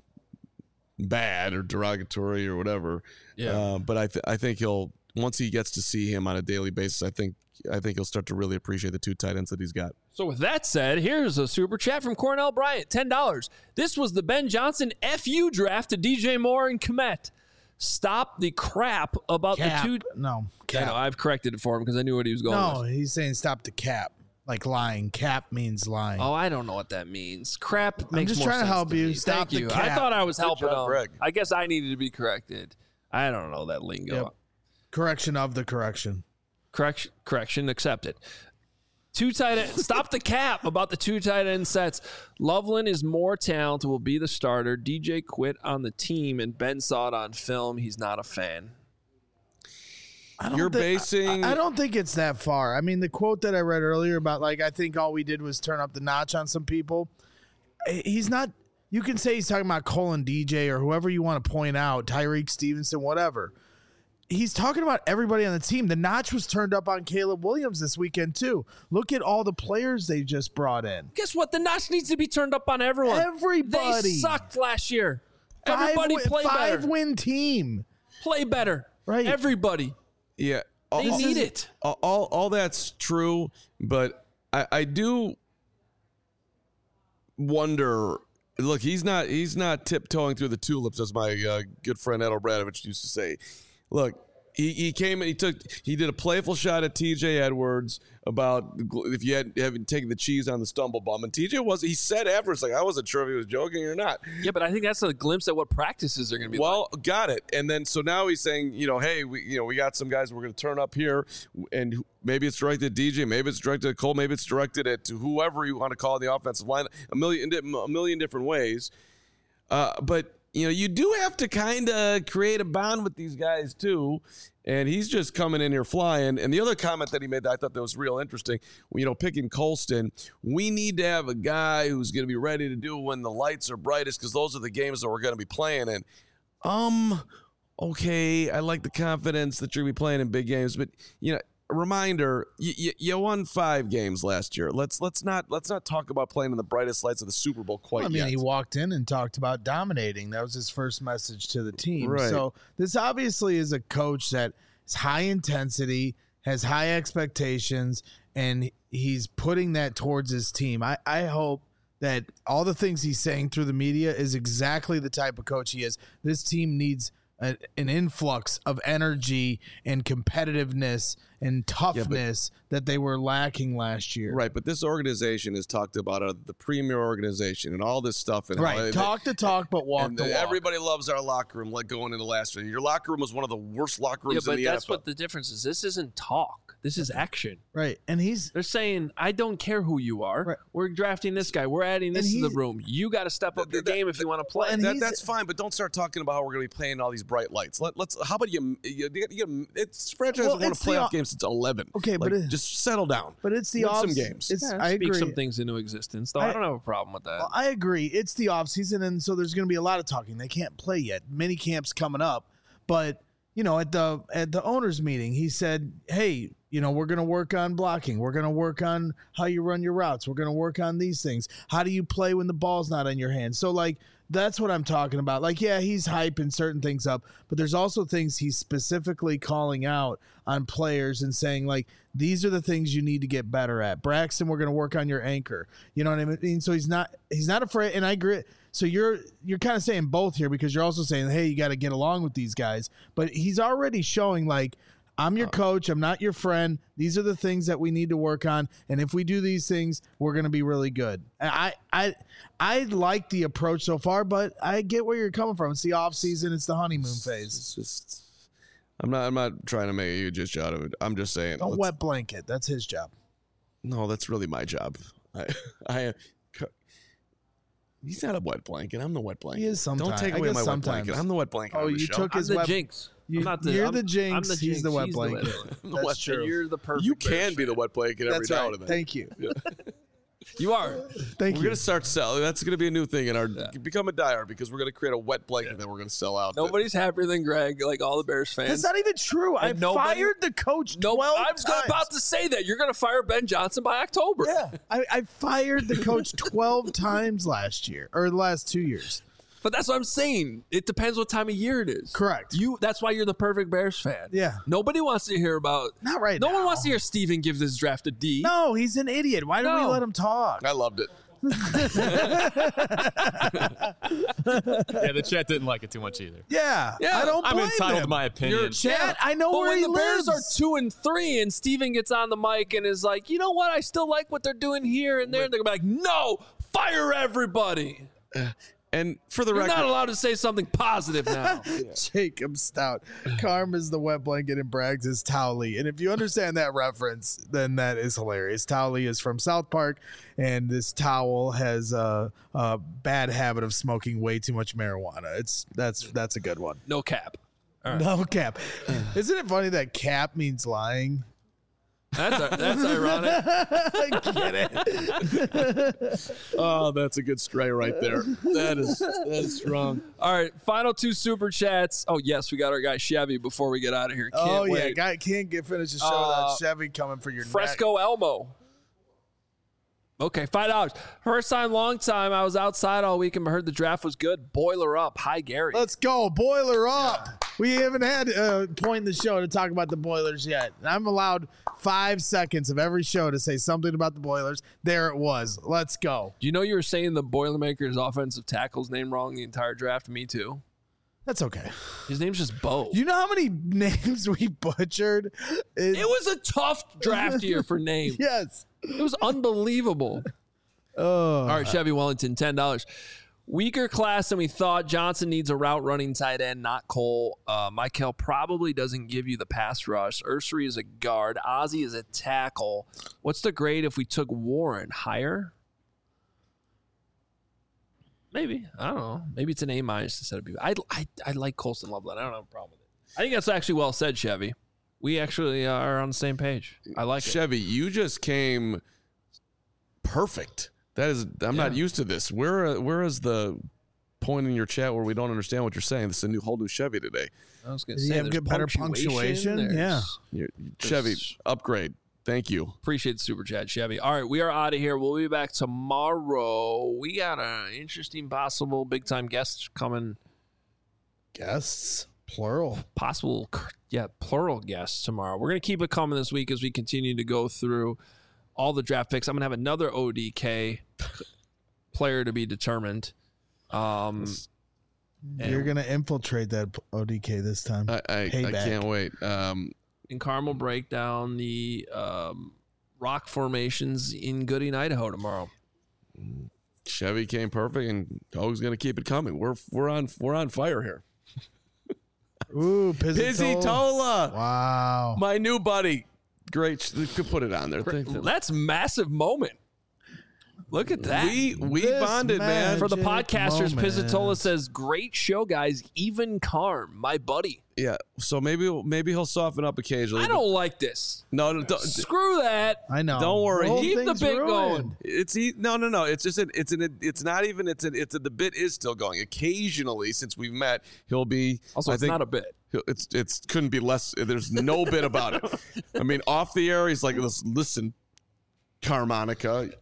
bad or derogatory or whatever. Yeah. Uh, but I, th- I think he'll, once he gets to see him on a daily basis, I think I think he'll start to really appreciate the two tight ends that he's got. So with that said, here's a super chat from Cornell Bryant, ten dollars. This was the Ben Johnson F U draft to D J Moore and Kmet. Stop the crap about Cap. the two. No. I know, Cap. I've corrected it for him because I knew what he was going No, with. he's saying stop the cap. like lying. Cap means lying. Oh, I don't know what that means. Crap makes just more trying to sense help to you. me. Stop Thank the you. I cap. thought I was helping job, him. Greg. I guess I needed to be corrected. I don't know that lingo. Yep. Correction of the correction. Correction, correction accepted. Two tight end. Stop the cap about the two tight end sets. Loveland is more talented, will be the starter. D J quit on the team, and Ben saw it on film. He's not a fan. I don't You're thi- basing- I, I don't think it's that far. I mean, the quote that I read earlier about like I think all we did was turn up the notch on some people. He's not. You can say he's talking about Cole and D J or whoever you want to point out, Tyreek Stevenson, whatever. He's talking about everybody on the team. The notch was turned up on Caleb Williams this weekend too. Look at all the players they just brought in. Guess what? The notch needs to be turned up on everyone. Everybody. They sucked last year. Five Everybody win- play five better. win team. Play better. Right. Everybody. Yeah. They all, need it. All, all, all that's true, but I, I do wonder. Look, he's not he's not tiptoeing through the tulips, as my uh, good friend Ed Obradovich used to say. Look, he, he came and he took he did a playful shot at T J Edwards about if you had haven't taken the cheese on the stumble bum, and T J was he said afterwards like I wasn't sure if he was joking or not. Yeah, but I think that's a glimpse at what practices are going to be Well, like. got it. And then so now he's saying, you know, hey, we you know we got some guys we're going to turn up here, and maybe it's directed at D J, maybe it's directed at Cole, maybe it's directed at to whoever you want to call the offensive line, a million a million different ways. Uh, but you know, you do have to kind of create a bond with these guys too. And he's just coming in here flying. And the other comment that he made that I thought that was real interesting, you know, picking Colston, we need to have a guy who's going to be ready to do when the lights are brightest because those are the games that we're going to be playing in. Um, okay, I like the confidence that you're going to be playing in big games, but you know, a reminder, you, you, you won five games last year. Let's let's not let's not talk about playing in the brightest lights of the Super Bowl quite Well, I mean, yet. he walked in and talked about dominating. That was his first message to the team. Right. So this obviously is a coach that is high intensity, has high expectations, and he's putting that towards his team. I, I hope that all the things he's saying through the media is exactly the type of coach he is. This team needs a, an influx of energy and competitiveness and toughness that they were lacking last year. Right, but this organization has talked about uh, the premier organization and all this stuff. And Right. how- Talk the talk, but walk and the walk. everybody loves our locker room, like going into last year. Your locker room was one of the worst locker Yeah, rooms in but the that's N F L. what the difference is. This isn't talk. This is action. Right. And he's They're saying, I don't care who you are. Right. We're drafting this guy. We're adding this And to the he's- room. You got to step up your That- game if you want to play. and That, he's- that's fine, but don't start talking about how we're going to be playing all these bright lights. Let, let's. How about you? you, you, you it's franchise Well, has won a it's the playoff o- game since eleven. Okay, but Like, it- just settle down. But it's the Win off some games. It's, Yeah, I speak agree. some things into existence, though. I, I- don't have a problem with that. Well, I agree. It's the off season, and so there's going to be a lot of talking. They can't play yet. Mini camps coming up, but you know, at the at the owners' meeting, he said, "Hey, you know, we're going to work on blocking. We're going to work on how you run your routes. We're going to work on these things. How do you play when the ball's not in your hands?" So, like, that's what I'm talking about. Like, yeah, he's hyping certain things up, but there's also things he's specifically calling out on players and saying, like, these are the things you need to get better at. Braxton, we're going to work on your anchor. You know what I mean? So he's not he's not afraid. And I agree. So you're you're kind of saying both here because you're also saying, hey, you got to get along with these guys. But he's already showing, like, I'm your coach. I'm not your friend. These are the things that we need to work on. And if we do these things, we're going to be really good. And I, I, I like the approach so far, but I get where you're coming from. It's the off season. It's the honeymoon phase. It's just. I'm not. I'm not trying to make a huge issue out of it. I'm just saying. Don't let's- wet blanket. That's his job. No, that's really my job. I. I He's not a wet blanket. I'm the wet blanket. He is sometimes. Don't take I away guess my sometimes. wet blanket. I'm the wet blanket. Oh, on the you show. took I'm his the wet. jinx. You, I'm not the, you're I'm, the jinx. I'm the He's the jinx. wet He's blanket. The wet- That's wet- true. You're the perfect. You Bears can be the fan. wet blanket every That's now right. and then. Thank you. You are. Thank We're you. gonna start selling. That's gonna be a new thing in our become a dyer because we're gonna create a wet blanket that we're gonna sell out. Nobody's happier than Greg, like all the Bears fans. That's not even true. I And nobody- fired the coach No, twelve I was times. about to say that. You're going to fire Ben Johnson by October. Yeah, I, I fired the coach twelve times last year or the last two years. But that's what I'm saying. It depends what time of year it is. Correct. You. That's why you're the perfect Bears fan. Yeah. Nobody wants to hear about. Not right No now. one wants to hear Steven give this draft a D. No, he's an idiot. Why do we No. let him talk? I loved it. Yeah, the chat didn't like it too much either. Yeah, Yeah, I don't I'm blame entitled him. to my opinion. You're- Chat, I know But where when he the lives. Bears are two and three, and Steven gets on the mic and is like, you know what? I still like what they're doing here and there. And they're gonna be like, no, fire everybody. And for the You're record, not allowed to say something positive now. Jacob Stout. Carm is the wet blanket and Braggs is Towley. And if you understand that reference, then that is hilarious. Towley is from South Park, and this towel has a, a bad habit of smoking way too much marijuana. It's that's that's a good one. No cap. No cap. Isn't it funny that cap means lying? That's that's ironic. I get it. oh, that's a good stray right there. That is that is strong. All right, final two super chats. Oh yes, we got our guy Chevy before we get out of here. Can't oh yeah, wait. guy can't get finished the show Uh, without Chevy coming for your Fresco Elmo. Okay, five dollars. First time, long time. I was outside all week and heard the draft was good. Boiler up. Hi, Gary. Let's go. Boiler up. We haven't had a point in the show to talk about the Boilers yet. And I'm allowed five seconds of every show to say something about the Boilers. There it was. Let's go. Do you know you were saying the Boilermaker's offensive tackle's name wrong the entire draft? Me too. That's okay. His name's just Bo. You know how many names we butchered? It, It was a tough draft year for names. yes. It was unbelievable. Oh. All right, Chevy Wellington, ten dollars. Weaker class than we thought. Johnson needs a route running tight end, not Cole. Uh, Michael probably doesn't give you the pass rush. Ursary is a guard. Ozzie is a tackle. What's the grade if we took Warren? Higher? Maybe. I don't know. Maybe it's an A minus instead of B. I, I, I like Colston Loveland. I don't have a problem with it. I think that's actually well said, Chevy. We actually are on the same page. I like it. Chevy, you just came perfect. That is, I'm not Yeah. used to this. Where, where is the point in your chat where we don't understand what you're saying? This is a new, whole new Chevy today. I was going to Does he say, have there's good- better punctuation? there's- Yeah. You're, Chevy, upgrade. Thank you. Appreciate the super chat, Chevy. All right, we are out of here. We'll be back tomorrow. We got an interesting, possible big time guest coming. Guests. Plural. Possible, yeah, plural guests tomorrow. We're going to keep it coming this week as we continue to go through all the draft picks. I'm going to have another O D K player to be determined. Um, You're going to infiltrate that O D K this time. I, I, I Payback. can't wait. Um, and Carm will break down the um, rock formations in Gooding, Idaho tomorrow. Chevy came perfect, and Hoag's going to keep it coming. We're we're on we're on fire here. Ooh, Pizzitola. Pizzitola, Wow. my new buddy. Great, you could put it on there. Thank you. That's a massive moment. Look at that. We we This bonded, man. For the Magic podcasters, moment. Pizzitola says, great show, guys. Even Carm, my buddy. Yeah, so maybe maybe he'll soften up occasionally. I don't like this. No, no, don't, Screw that. I know. Don't worry. The whole Keep the thing's bit ruined. going. It's e- no, no, no. It's just an, it's an it's not even it's an, it's a, the bit is still going. Occasionally, since we've met, he'll be. Also, I it's think, not a bit. he'll- It's it's couldn't be less. There's no bit about it. I mean, off the air, he's like, listen, listen Carmonica.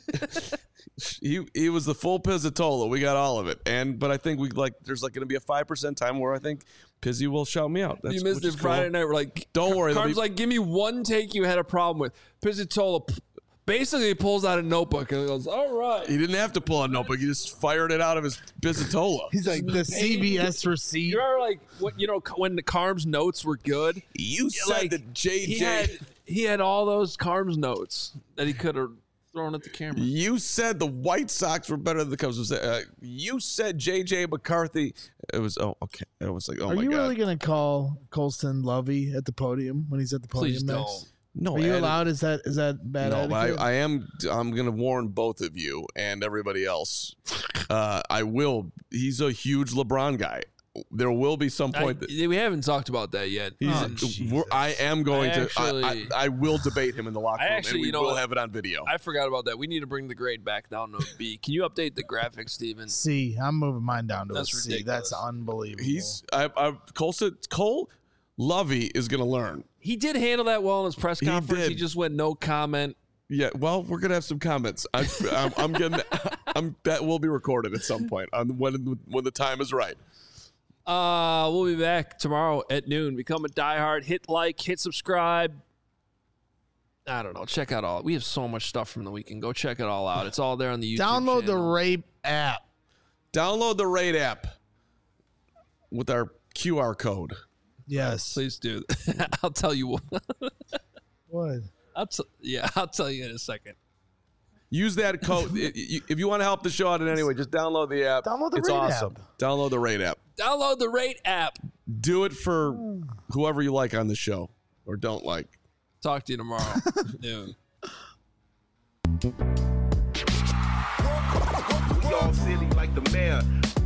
he he was the full Pizzitola. We got all of it, and but I think we like there's like going to be a five percent time where I think Pizzy will shout me out. That's, You missed which it is cool. Friday night. We're like, Don't worry, Carm's there'll be- like, give me one take you had a problem with. Pizzitola p- basically pulls out a notebook and goes, all right. He didn't have to pull a notebook. He just fired it out of his Pizzitola. He's like the C B S receipt. You remember, like, what, you know, when the Carm's notes were good? You said like, that J J. He had, he had all those Carm's notes that he could have thrown at the camera. You said the White Sox were better than the Cubs. Uh, you said J J McCarthy. It was oh okay. It was like oh Are my you god. really going to call Colston Lovey at the podium when he's at the podium Please next? don't. no, Are you Ed- allowed? Is that is that bad No, but etiquette? I, I am. I'm going to warn both of you and everybody else. Uh, I will. He's a huge LeBron guy. There will be some I, point that we haven't talked about that yet. he's. Oh, we're- Jesus. I am going I to. actually- I, I, I will debate him in the locker I room, actually, and we you know will what? have it on video. I forgot about that. We need to bring the grade back down to a B. Can you update the graphics, Steven? C. I'm moving mine down to That's a C. ridiculous. That's unbelievable. He's. I. I Cole said. Cole Lovey is going to learn. He did handle that well in his press He conference. He, did. just went no comment. Yeah, well, we're gonna have some comments. I, I'm, I'm gonna, I'm that will be recorded at some point on when when the time is right. Uh, we'll be back tomorrow at noon. Become a diehard. Hit like, hit subscribe. I don't know. Check out all. We have so much stuff from the weekend. Go check it all out. It's all there on the YouTube Download the channel. Rape app. Download the Rate app with our Q R code. Yes. Please do. I'll tell you what. What? I'll t- yeah, I'll tell you in a second. Use that code. If you want to help the show out in any way, just download the app. Download the it's Rate awesome. app. Download the Rate app. Download the Rate app. Do it for whoever you like on the show or don't like. Talk to you tomorrow. Noon. We all silly like the mayor.